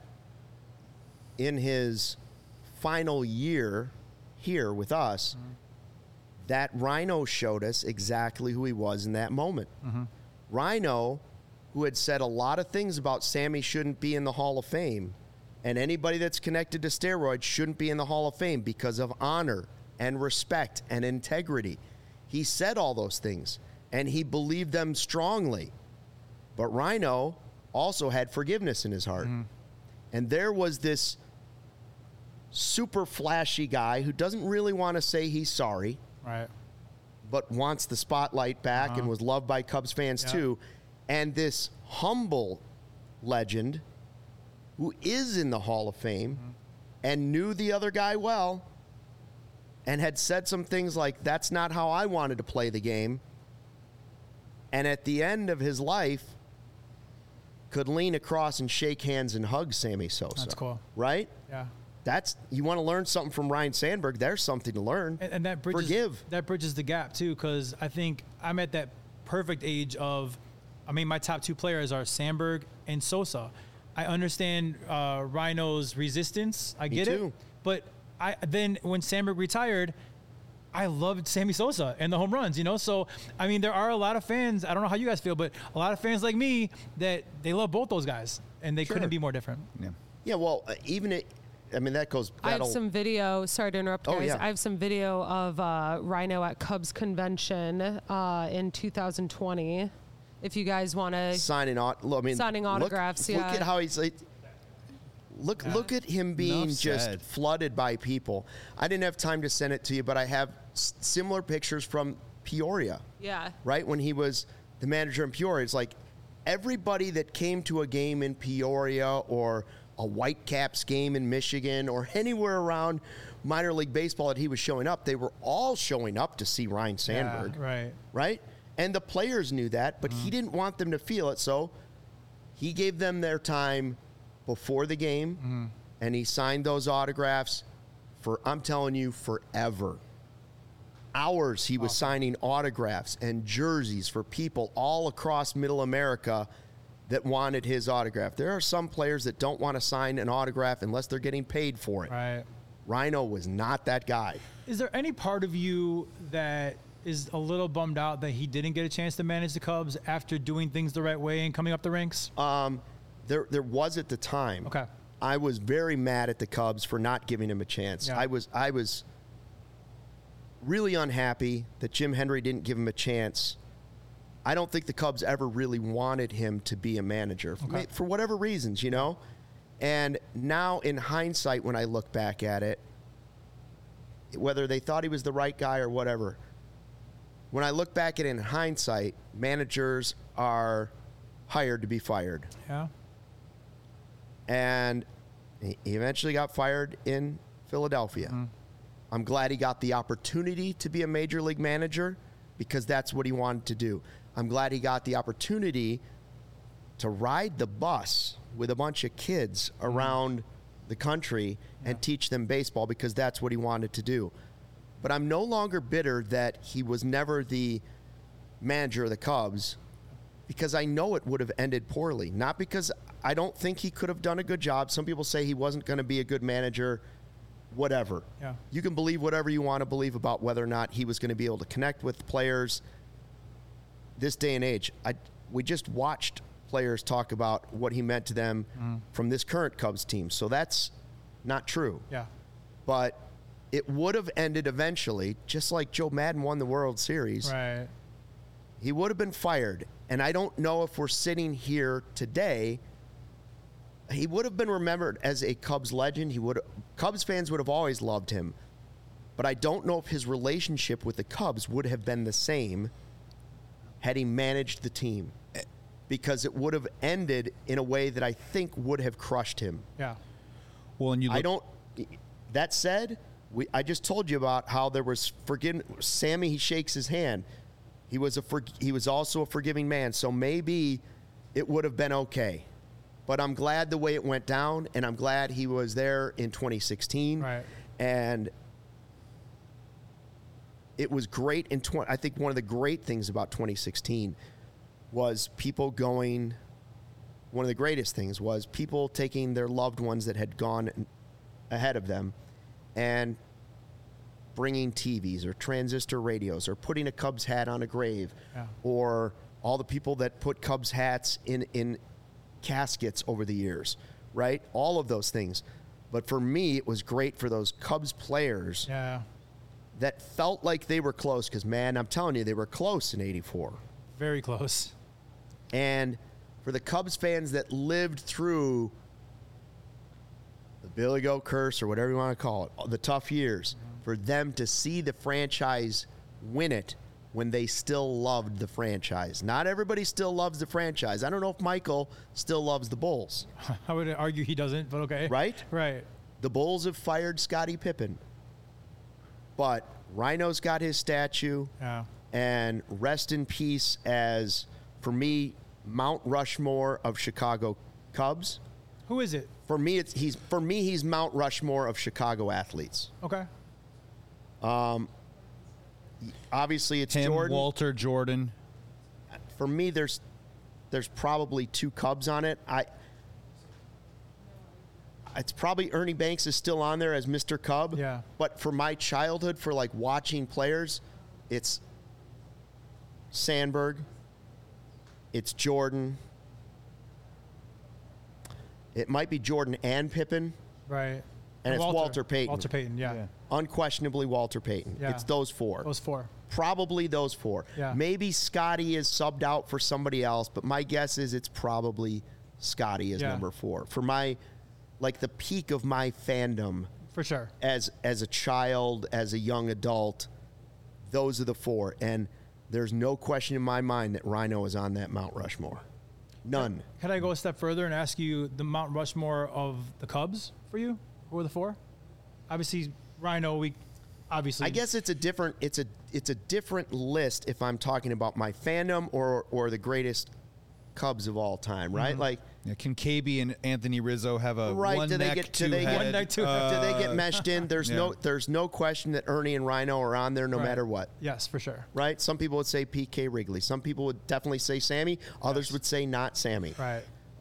in his final year here with us, Mm-hmm. that Rhino showed us exactly who he was in that moment. Mm-hmm. Rhino, who had said a lot of things about Sammy shouldn't be in the Hall of Fame, and anybody that's connected to steroids shouldn't be in the Hall of Fame because of honor and respect and integrity. He said all those things, and he believed them strongly. But Rhino also had forgiveness in his heart. And there was this super flashy guy who doesn't really want to say he's sorry, Right. but wants the spotlight back and Uh-huh. was loved by Cubs fans Yeah. too. And this humble legend who is in the Hall of Fame Mm-hmm. and knew the other guy well and had said some things like, that's not how I wanted to play the game. And at the end of his life, could lean across and shake hands and hug Sammy Sosa. That's cool. Right? Yeah. That's, you want to learn something from Ryan Sandberg, there's something to learn. And, and that bridges Forgive. that bridges the gap too, because I think I'm at that perfect age of, I mean, my top two players are Sandberg and Sosa. I understand uh, Rhino's resistance. I Me get too. it, but I then when Sandberg retired, I loved Sammy Sosa and the home runs. You know, so I mean, there are a lot of fans. I don't know how you guys feel, but a lot of fans like me that they love both those guys, and they Sure. couldn't be more different. Yeah. Yeah, well, uh, even it, I mean, that goes. I have that'll- some video. Sorry to interrupt, Oh, guys. yeah. I have some video of uh, Rhino at Cubs convention uh, in two thousand twenty. If you guys want to, signing aut- I mean, Signing look- autographs, Look yeah. at how he's like. Look, look at him being Enough just said. flooded by people. I didn't have time to send it to you, but I have s- similar pictures from Peoria. yeah, Right when he was the manager in Peoria, it's like everybody that came to a game in Peoria or a Whitecaps game in Michigan or anywhere around minor league baseball that he was showing up, they were all showing up to see Ryan Sandberg. Yeah, right. Right? And the players knew that, but Mm-hmm. he didn't want them to feel it. So he gave them their time before the game, Mm-hmm. and he signed those autographs for, I'm telling you, forever. Hours he was signing autographs and jerseys for people all across middle America that wanted his autograph. There are some players that don't want to sign an autograph unless they're getting paid for it. Right. Rhino was not that guy. Is there any part of you that is a little bummed out that he didn't get a chance to manage the Cubs after doing things the right way and coming up the ranks? Um, there, there was at the time. Okay. I was very mad at the Cubs for not giving him a chance. Yeah. I was, I was really unhappy that Jim Hendry didn't give him a chance. I don't think the Cubs ever really wanted him to be a manager for, Okay. for whatever reasons, you know. And now, in hindsight, when I look back at it, whether they thought he was the right guy or whatever, when I look back at it in hindsight, managers are hired to be fired. Yeah. And he he eventually got fired in Philadelphia. I'm glad he got the opportunity to be a major league manager because that's what he wanted to do. I'm glad he got the opportunity to ride the bus with a bunch of kids around the country Yeah. and teach them baseball because that's what he wanted to do. But I'm no longer bitter that he was never the manager of the Cubs because I know it would have ended poorly. Not because I don't think he could have done a good job. Some people say he wasn't going to be a good manager, whatever. Yeah. You can believe whatever you want to believe about whether or not he was going to be able to connect with players. This day and age, I, we just watched players talk about what he meant to them Mm. from this current Cubs team. So that's not true. Yeah. But it would have ended eventually, just like Joe Madden won the World Series. Right. He would have been fired. And I don't know if we're sitting here today. He would have been remembered as a Cubs legend. He would Cubs fans would have always loved him. But I don't know if his relationship with the Cubs would have been the same had he managed the team. Because it would have ended in a way that I think would have crushed him. Yeah. Well, and you look, I don't. That said, we I just told you about how there was forgive Sammy. He shakes his hand. He was a for, he was also a forgiving man. So maybe it would have been okay. But I'm glad the way it went down, and I'm glad he was there in twenty sixteen. Right. And it was great in twenty. I think one of the great things about twenty sixteen was people going. One of the greatest things was people taking their loved ones that had gone ahead of them and bringing T Vs or transistor radios or putting a Cubs hat on a grave, Yeah. or all the people that put Cubs hats in, in caskets over the years, right? All of those things. But for me, it was great for those Cubs players Yeah. that felt like they were close because, man, I'm telling you, they were close in eighty-four. Very close. And for the Cubs fans that lived through the Billy Goat curse or whatever you want to call it, the tough years, for them to see the franchise win it when they still loved the franchise. Not everybody still loves the franchise. I don't know if Michael still loves the Bulls, I would argue he doesn't, but okay. right? Right. The Bulls have fired Scottie Pippen. But Rhino's got his statue. Yeah. And rest in peace as, for me, Mount Rushmore of Chicago Cubs. Who is it? For me, it's he's for me he's Mount Rushmore of Chicago athletes. Okay. Obviously, it's him, Jordan. Walter, Jordan. For me, there's there's probably two Cubs on it. I it's probably Ernie Banks is still on there as Mister Cub. Yeah. But for my childhood, for like watching players, it's Sandberg. It's Jordan. It might be Jordan and Pippen. Right. And it's Walter Payton. Walter Payton, yeah. Yeah. Unquestionably Walter Payton. Yeah. It's those four. Those four. Probably those four. Yeah. Maybe Scotty is subbed out for somebody else, but my guess is it's probably Scotty as Yeah. number four. For my, like the peak of my fandom For sure. as as a child, as a young adult, those are the four. And there's no question in my mind that Rhino is on that Mount Rushmore. None. Could I go a step further and ask you the Mount Rushmore of the Cubs for you? Who are the four? Obviously, Rhino, we obviously. I guess it's a different it's a it's a different list if I'm talking about my fandom or or the greatest Cubs of all time, right? Mm-hmm. Like Yeah, can K B and Anthony Rizzo have a Right, one do they neck, get- do two they get- head? One neck, two head. uh, do they get meshed in? There's yeah. no there's no question that Ernie and Rhino are on there no Right. matter what. Yes, for sure. Right? Some people would say P K Wrigley. Some people would definitely say Sammy. Others Yes. would say not Sammy. Right.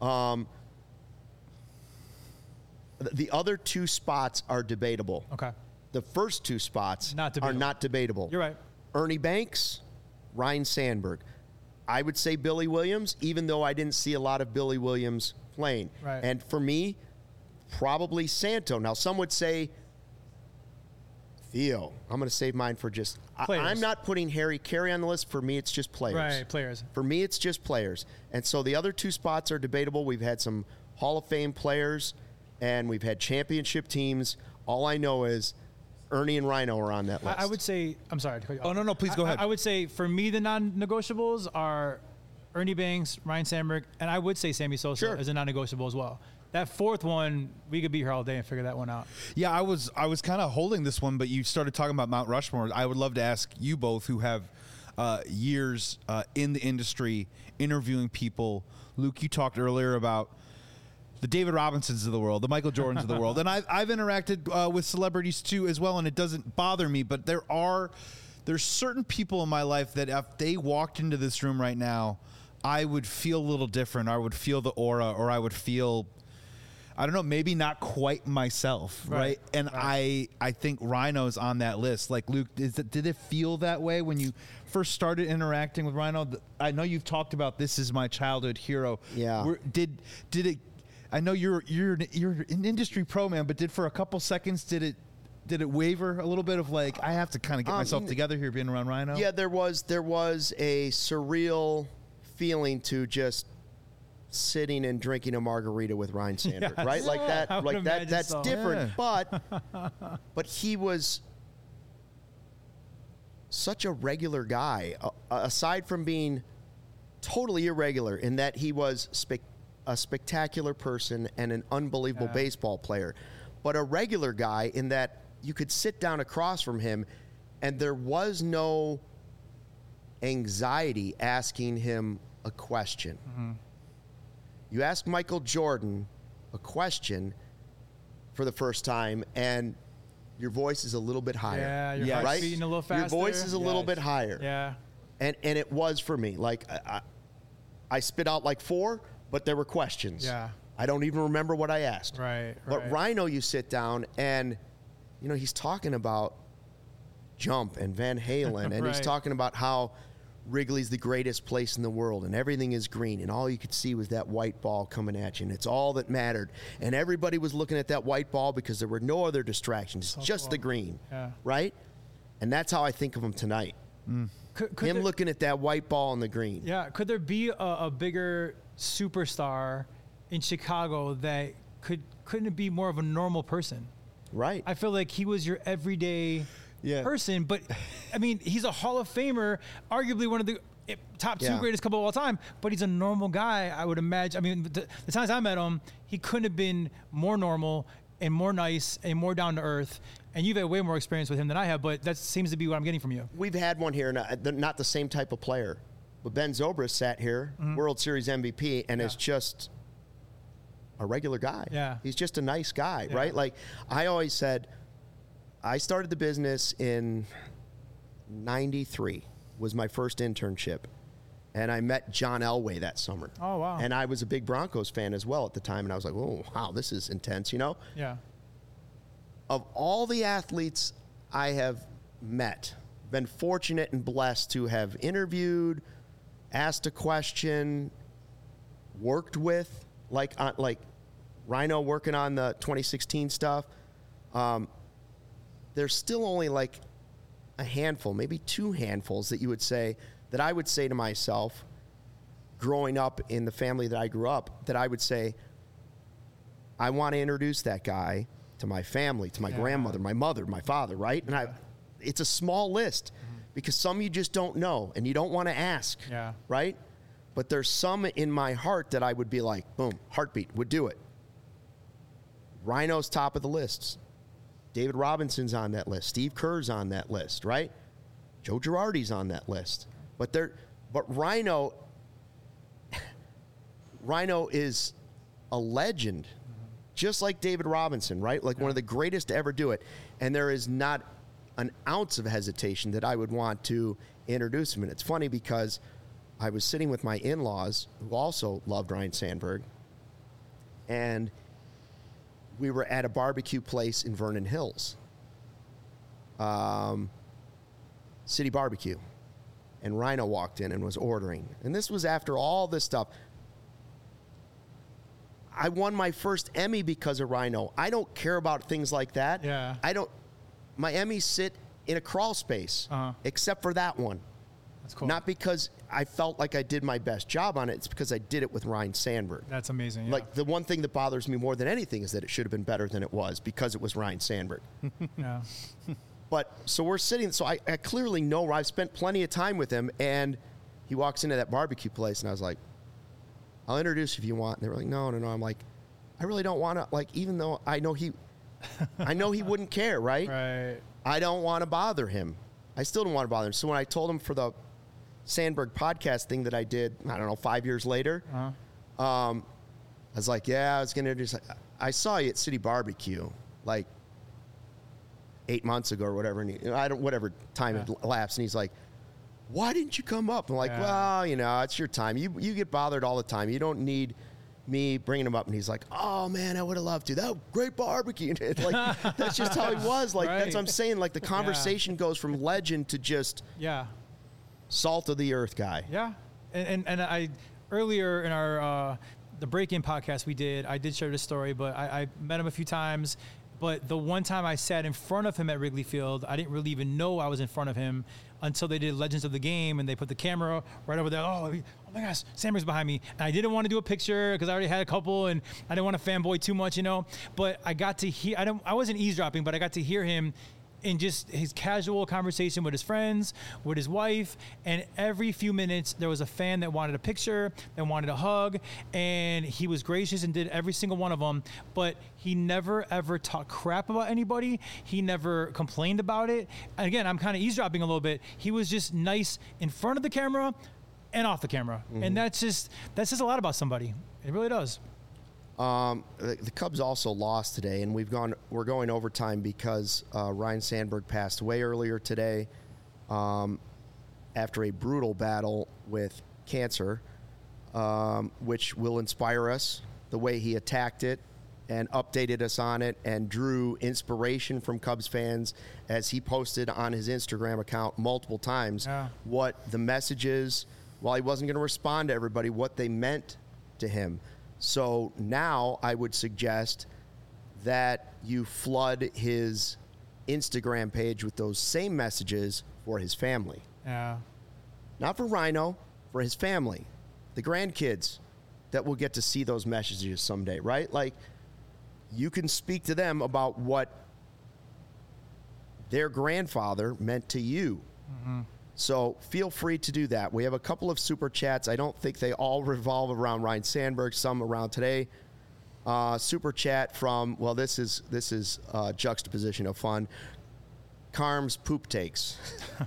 Th- The other two spots are debatable. Okay. The first two spots Not are debatable. not debatable. You're right. Ernie Banks, Ryan Sandberg. I would say Billy Williams, even though I didn't see a lot of Billy Williams playing. Right. And for me, probably Santo. Now, some would say Theo. I'm going to save mine for just. I, Players. I'm not putting Harry Carey on the list. For me, it's just players. Right. Players. For me, it's just players. And so the other two spots are debatable. We've had some Hall of Fame players, and we've had championship teams. All I know is Ernie and Rhino are on that list. I, I would say. I'm sorry. to cut you Oh, off. no, no, please go I- ahead. I, I would say for me the non-negotiables are Ernie Banks, Ryan Sandberg, and I would say Sammy Sosa Sure. as a non-negotiable as well. That fourth one, we could be here all day and figure that one out. Yeah, I was I was kind of holding this one, but you started talking about Mount Rushmore. I would love to ask you both who have uh, years uh, in the industry, interviewing people. Luke, you talked earlier about the David Robinsons of the world, the Michael Jordans of the world. And I've, I've interacted uh, with celebrities too as well, and it doesn't bother me. But there are there's certain people in my life that if they walked into this room right now, I would feel a little different. I would feel the aura, or I would feel, I don't know, maybe not quite myself, right? right? And right. I I think Rhino's on that list. Like, Luke, is it, did it feel that way when you first started interacting with Rhino? I know you've talked about this is my childhood hero. Yeah. Were, did did it? I know you're you're you're an industry pro, man, but did for a couple seconds did it did it waver a little bit of like I have to kind of get um, myself together here being around Rhino? Yeah, there was there was a surreal feeling to just sitting and drinking a margarita with Ryne Sandberg, yes. right? Like that, I like that. That's so. different. Yeah. But, but he was such a regular guy. Uh, aside from being totally irregular in that he was spe- a spectacular person and an unbelievable yeah. baseball player, but a regular guy in that you could sit down across from him, and there was no anxiety asking him a question. Mm-hmm. You ask Michael Jordan a question for the first time, and your voice is a little bit higher. Yeah, your Yes. heart's right? beating a little faster. Your voice is a little Yes. bit higher. Yeah. And and it was for me. Like, I, I, I spit out like four, but there were questions. Yeah. I don't even remember what I asked. Right, But right. Rhino, you sit down, and, you know, he's talking about Jump and Van Halen, and he's Right. talking about how Wrigley's the greatest place in the world, and everything is green, and all you could see was that white ball coming at you, and it's all that mattered. And everybody was looking at that white ball because there were no other distractions, So just cool. the green, Yeah. right? And that's how I think of him tonight. Could, could Him there, looking at that white ball on the green. Yeah. Could there be a, a bigger superstar in Chicago that could couldn't it be more of a normal person? Right. I feel like he was your everyday Yeah. person, but I mean, he's a Hall of Famer, arguably one of the eh, top two Yeah. greatest couple of all time, but he's a normal guy, I would imagine. I mean, the, the times I met him, he couldn't have been more normal and more nice and more down to earth. And you've had way more experience with him than I have, but that seems to be what I'm getting from you. We've had one here, not, they're not the same type of player. But Ben Zobrist sat here, Mm-hmm. World Series M V P, and Yeah. is just a regular guy. Yeah. He's just a nice guy, Yeah. right? Like, I always said, I started the business in ninety-three, was my first internship. And I met John Elway that summer. Oh, wow. And I was a big Broncos fan as well at the time, and I was like, oh, wow, this is intense, you know? Yeah. Of all the athletes I have met, been fortunate and blessed to have interviewed, asked a question, worked with, like uh, like Rhino working on the twenty sixteen stuff. Um, there's still only like a handful, maybe two handfuls that you would say, that I would say to myself, growing up in the family that I grew up, that I would say, I want to introduce that guy to my family, to my Yeah. grandmother, my mother, my father, right? And I, it's a small list because some you just don't know and you don't want to ask, Yeah. right? But there's some in my heart that I would be like, boom, heartbeat, would do it. Rhino's top of the lists. David Robinson's on that list. Steve Kerr's on that list, right? Joe Girardi's on that list. But they're, but Rhino, Rhino is a legend, just like David Robinson, right? Like one of the greatest to ever do it. And there is not an ounce of hesitation that I would want to introduce him. And it's funny because I was sitting with my in-laws who also loved Ryne Sandberg, and we were at a barbecue place in Vernon Hills, um, City Barbecue. And Rhino walked in and was ordering. And this was after all this stuff. I won my first Emmy because of Rhino. I don't care about things like that. Yeah. I don't. My Emmys sit in a crawl space, Uh-huh. except for that one. That's cool. Not because I felt like I did my best job on it. It's because I did it with Ryne Sandberg. That's amazing. Yeah. Like, the one thing that bothers me more than anything is that it should have been better than it was because it was Ryne Sandberg. yeah. But so we're sitting, so I, I clearly know, I've spent plenty of time with him, and he walks into that barbecue place, and I was like, I'll introduce you if you want. And they were like, no, no, no. I'm like, I really don't want to, like, even though I know he, I know he wouldn't care, right? Right. I don't want to bother him. I still don't want to bother him. So when I told him for the Sandberg podcast thing that I did, I don't know, five years later. Uh-huh. Um, I was like, yeah, I was going to just, I saw you at City Barbecue, like eight months ago or whatever. And he, I don't, whatever time Yeah. it elapsed. And he's like, why didn't you come up? I'm like, Yeah. well, you know, it's your time. You, you get bothered all the time. You don't need me bringing him up. And he's like, oh man, I would have loved to. That was great barbecue. Like, that's just how he was. Like, that's what I'm Right. saying. Like the conversation goes from legend to just Yeah. salt of the earth guy. Yeah, and and, and I earlier in our uh, the break-in podcast we did, I did share this story, but I, I met him a few times. But the one time I sat in front of him at Wrigley Field, I didn't really even know I was in front of him until they did Legends of the Game and they put the camera right over there. Oh, oh my gosh, Sandberg's behind me. And I didn't want to do a picture because I already had a couple and I didn't want to fanboy too much, you know. But I got to hear, I don't, I wasn't eavesdropping, but I got to hear him in just his casual conversation with his friends, with his wife, and every few minutes there was a fan that wanted a picture, that wanted a hug, and he was gracious and did every single one of them, but he never ever talked crap about anybody. He never complained about it. And again, I'm kind of eavesdropping a little bit. He was just nice in front of the camera and off the camera. Mm-hmm. And that's just, that's just a lot about somebody. It really does. Um, the, the Cubs also lost today, and we've gone. We're going overtime because uh, Ryne Sandberg passed away earlier today, um, after a brutal battle with cancer, um, which will inspire us. The way he attacked it and updated us on it, and drew inspiration from Cubs fans as he posted on his Instagram account multiple times Yeah. what the messages. While he wasn't going to respond to everybody, what they meant to him. So now I would suggest that you flood his Instagram page with those same messages for his family. Yeah. Not for Rhino, for his family, the grandkids that will get to see those messages someday, right? Like, you can speak to them about what their grandfather meant to you. Mm-hmm. So feel free to do that. We have a couple of super chats. I don't think they all revolve around Ryne Sandberg. Some around today. Uh, super chat from, well, this is this is uh, juxtaposition of fun. Carm's poop takes.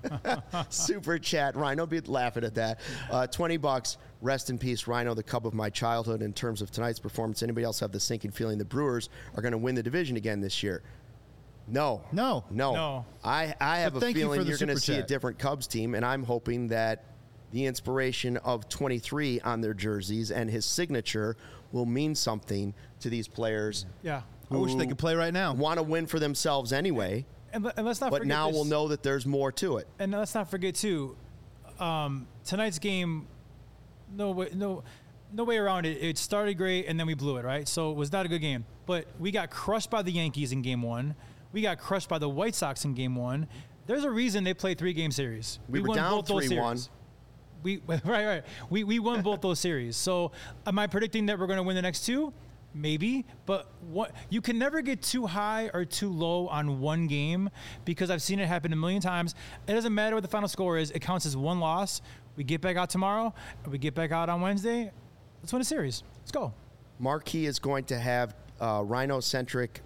Super chat. Rhino, be laughing at that. Uh, twenty bucks. Rest in peace, Rhino, the Cub of my childhood. In terms of tonight's performance, anybody else have the sinking feeling the Brewers are going to win the division again this year? No. No. No. No. I, I have But a thank you feeling for the you're going to super see a chat. different Cubs team, and I'm hoping that the inspiration of twenty-three on their jerseys and his signature will mean something to these players. Yeah. I wish they could play right now. Want to win for themselves anyway, And, le- and let's not but forget now this. we'll know that there's more to it. And let's not forget too, um, tonight's game, no way, no, no way around it. It started great and then we blew it, right? So it was not a good game. But we got crushed by the Yankees in game one. We got crushed by the White Sox in game one. There's a reason they played three game series. We were down three one. We right, right. We we won both those series. So am I predicting that we're going to win the next two? Maybe, but what you can never get too high or too low on one game because I've seen it happen a million times. It doesn't matter what the final score is; it counts as one loss. We get back out tomorrow, and we get back out on Wednesday. Let's win a series. Let's go. Marquee is going to have uh, Rhino-centric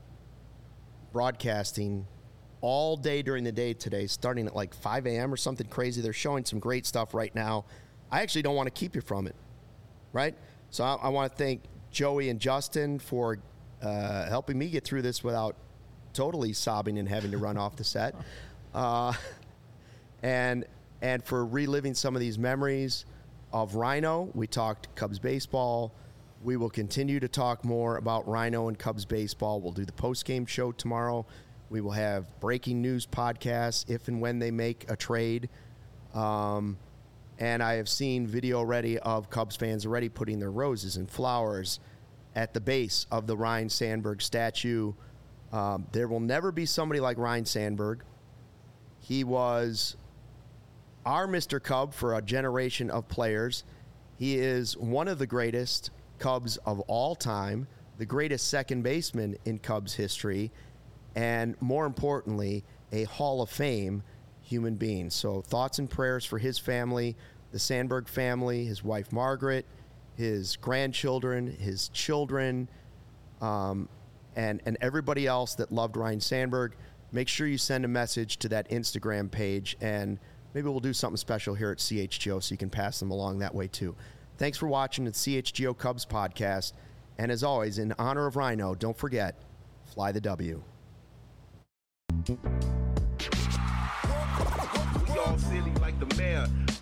broadcasting all day during the day today, starting at like five a.m. or something crazy. They're showing some great stuff right now. I actually don't want to keep you from it, right? So I, I want to thank Joey and Justin for uh, helping me get through this without totally sobbing and having to run off the set, uh, and and for reliving some of these memories of Rhino. We talked Cubs baseball. We will continue to talk more about Rhino and Cubs baseball. We'll do the post-game show tomorrow. We will have breaking news podcasts if and when they make a trade. Um, and I have seen video already of Cubs fans already putting their roses and flowers at the base of the Ryne Sandberg statue. Um, there will never be somebody like Ryne Sandberg. He was our Mister Cub for a generation of players. He is one of the greatest Cubs of all time, the greatest second baseman in Cubs history, and more importantly, a Hall of Fame human being. So thoughts and prayers for his family, the Sandberg family, his wife Margaret, his grandchildren, his children, um, and, and everybody else that loved Ryne Sandberg. Make sure you send a message to that Instagram page, and maybe we'll do something special here at C H G O so you can pass them along that way too. Thanks for watching the C H G O Cubs podcast. And as always, in honor of Rhino, don't forget, fly the W. We all silly like the mayor.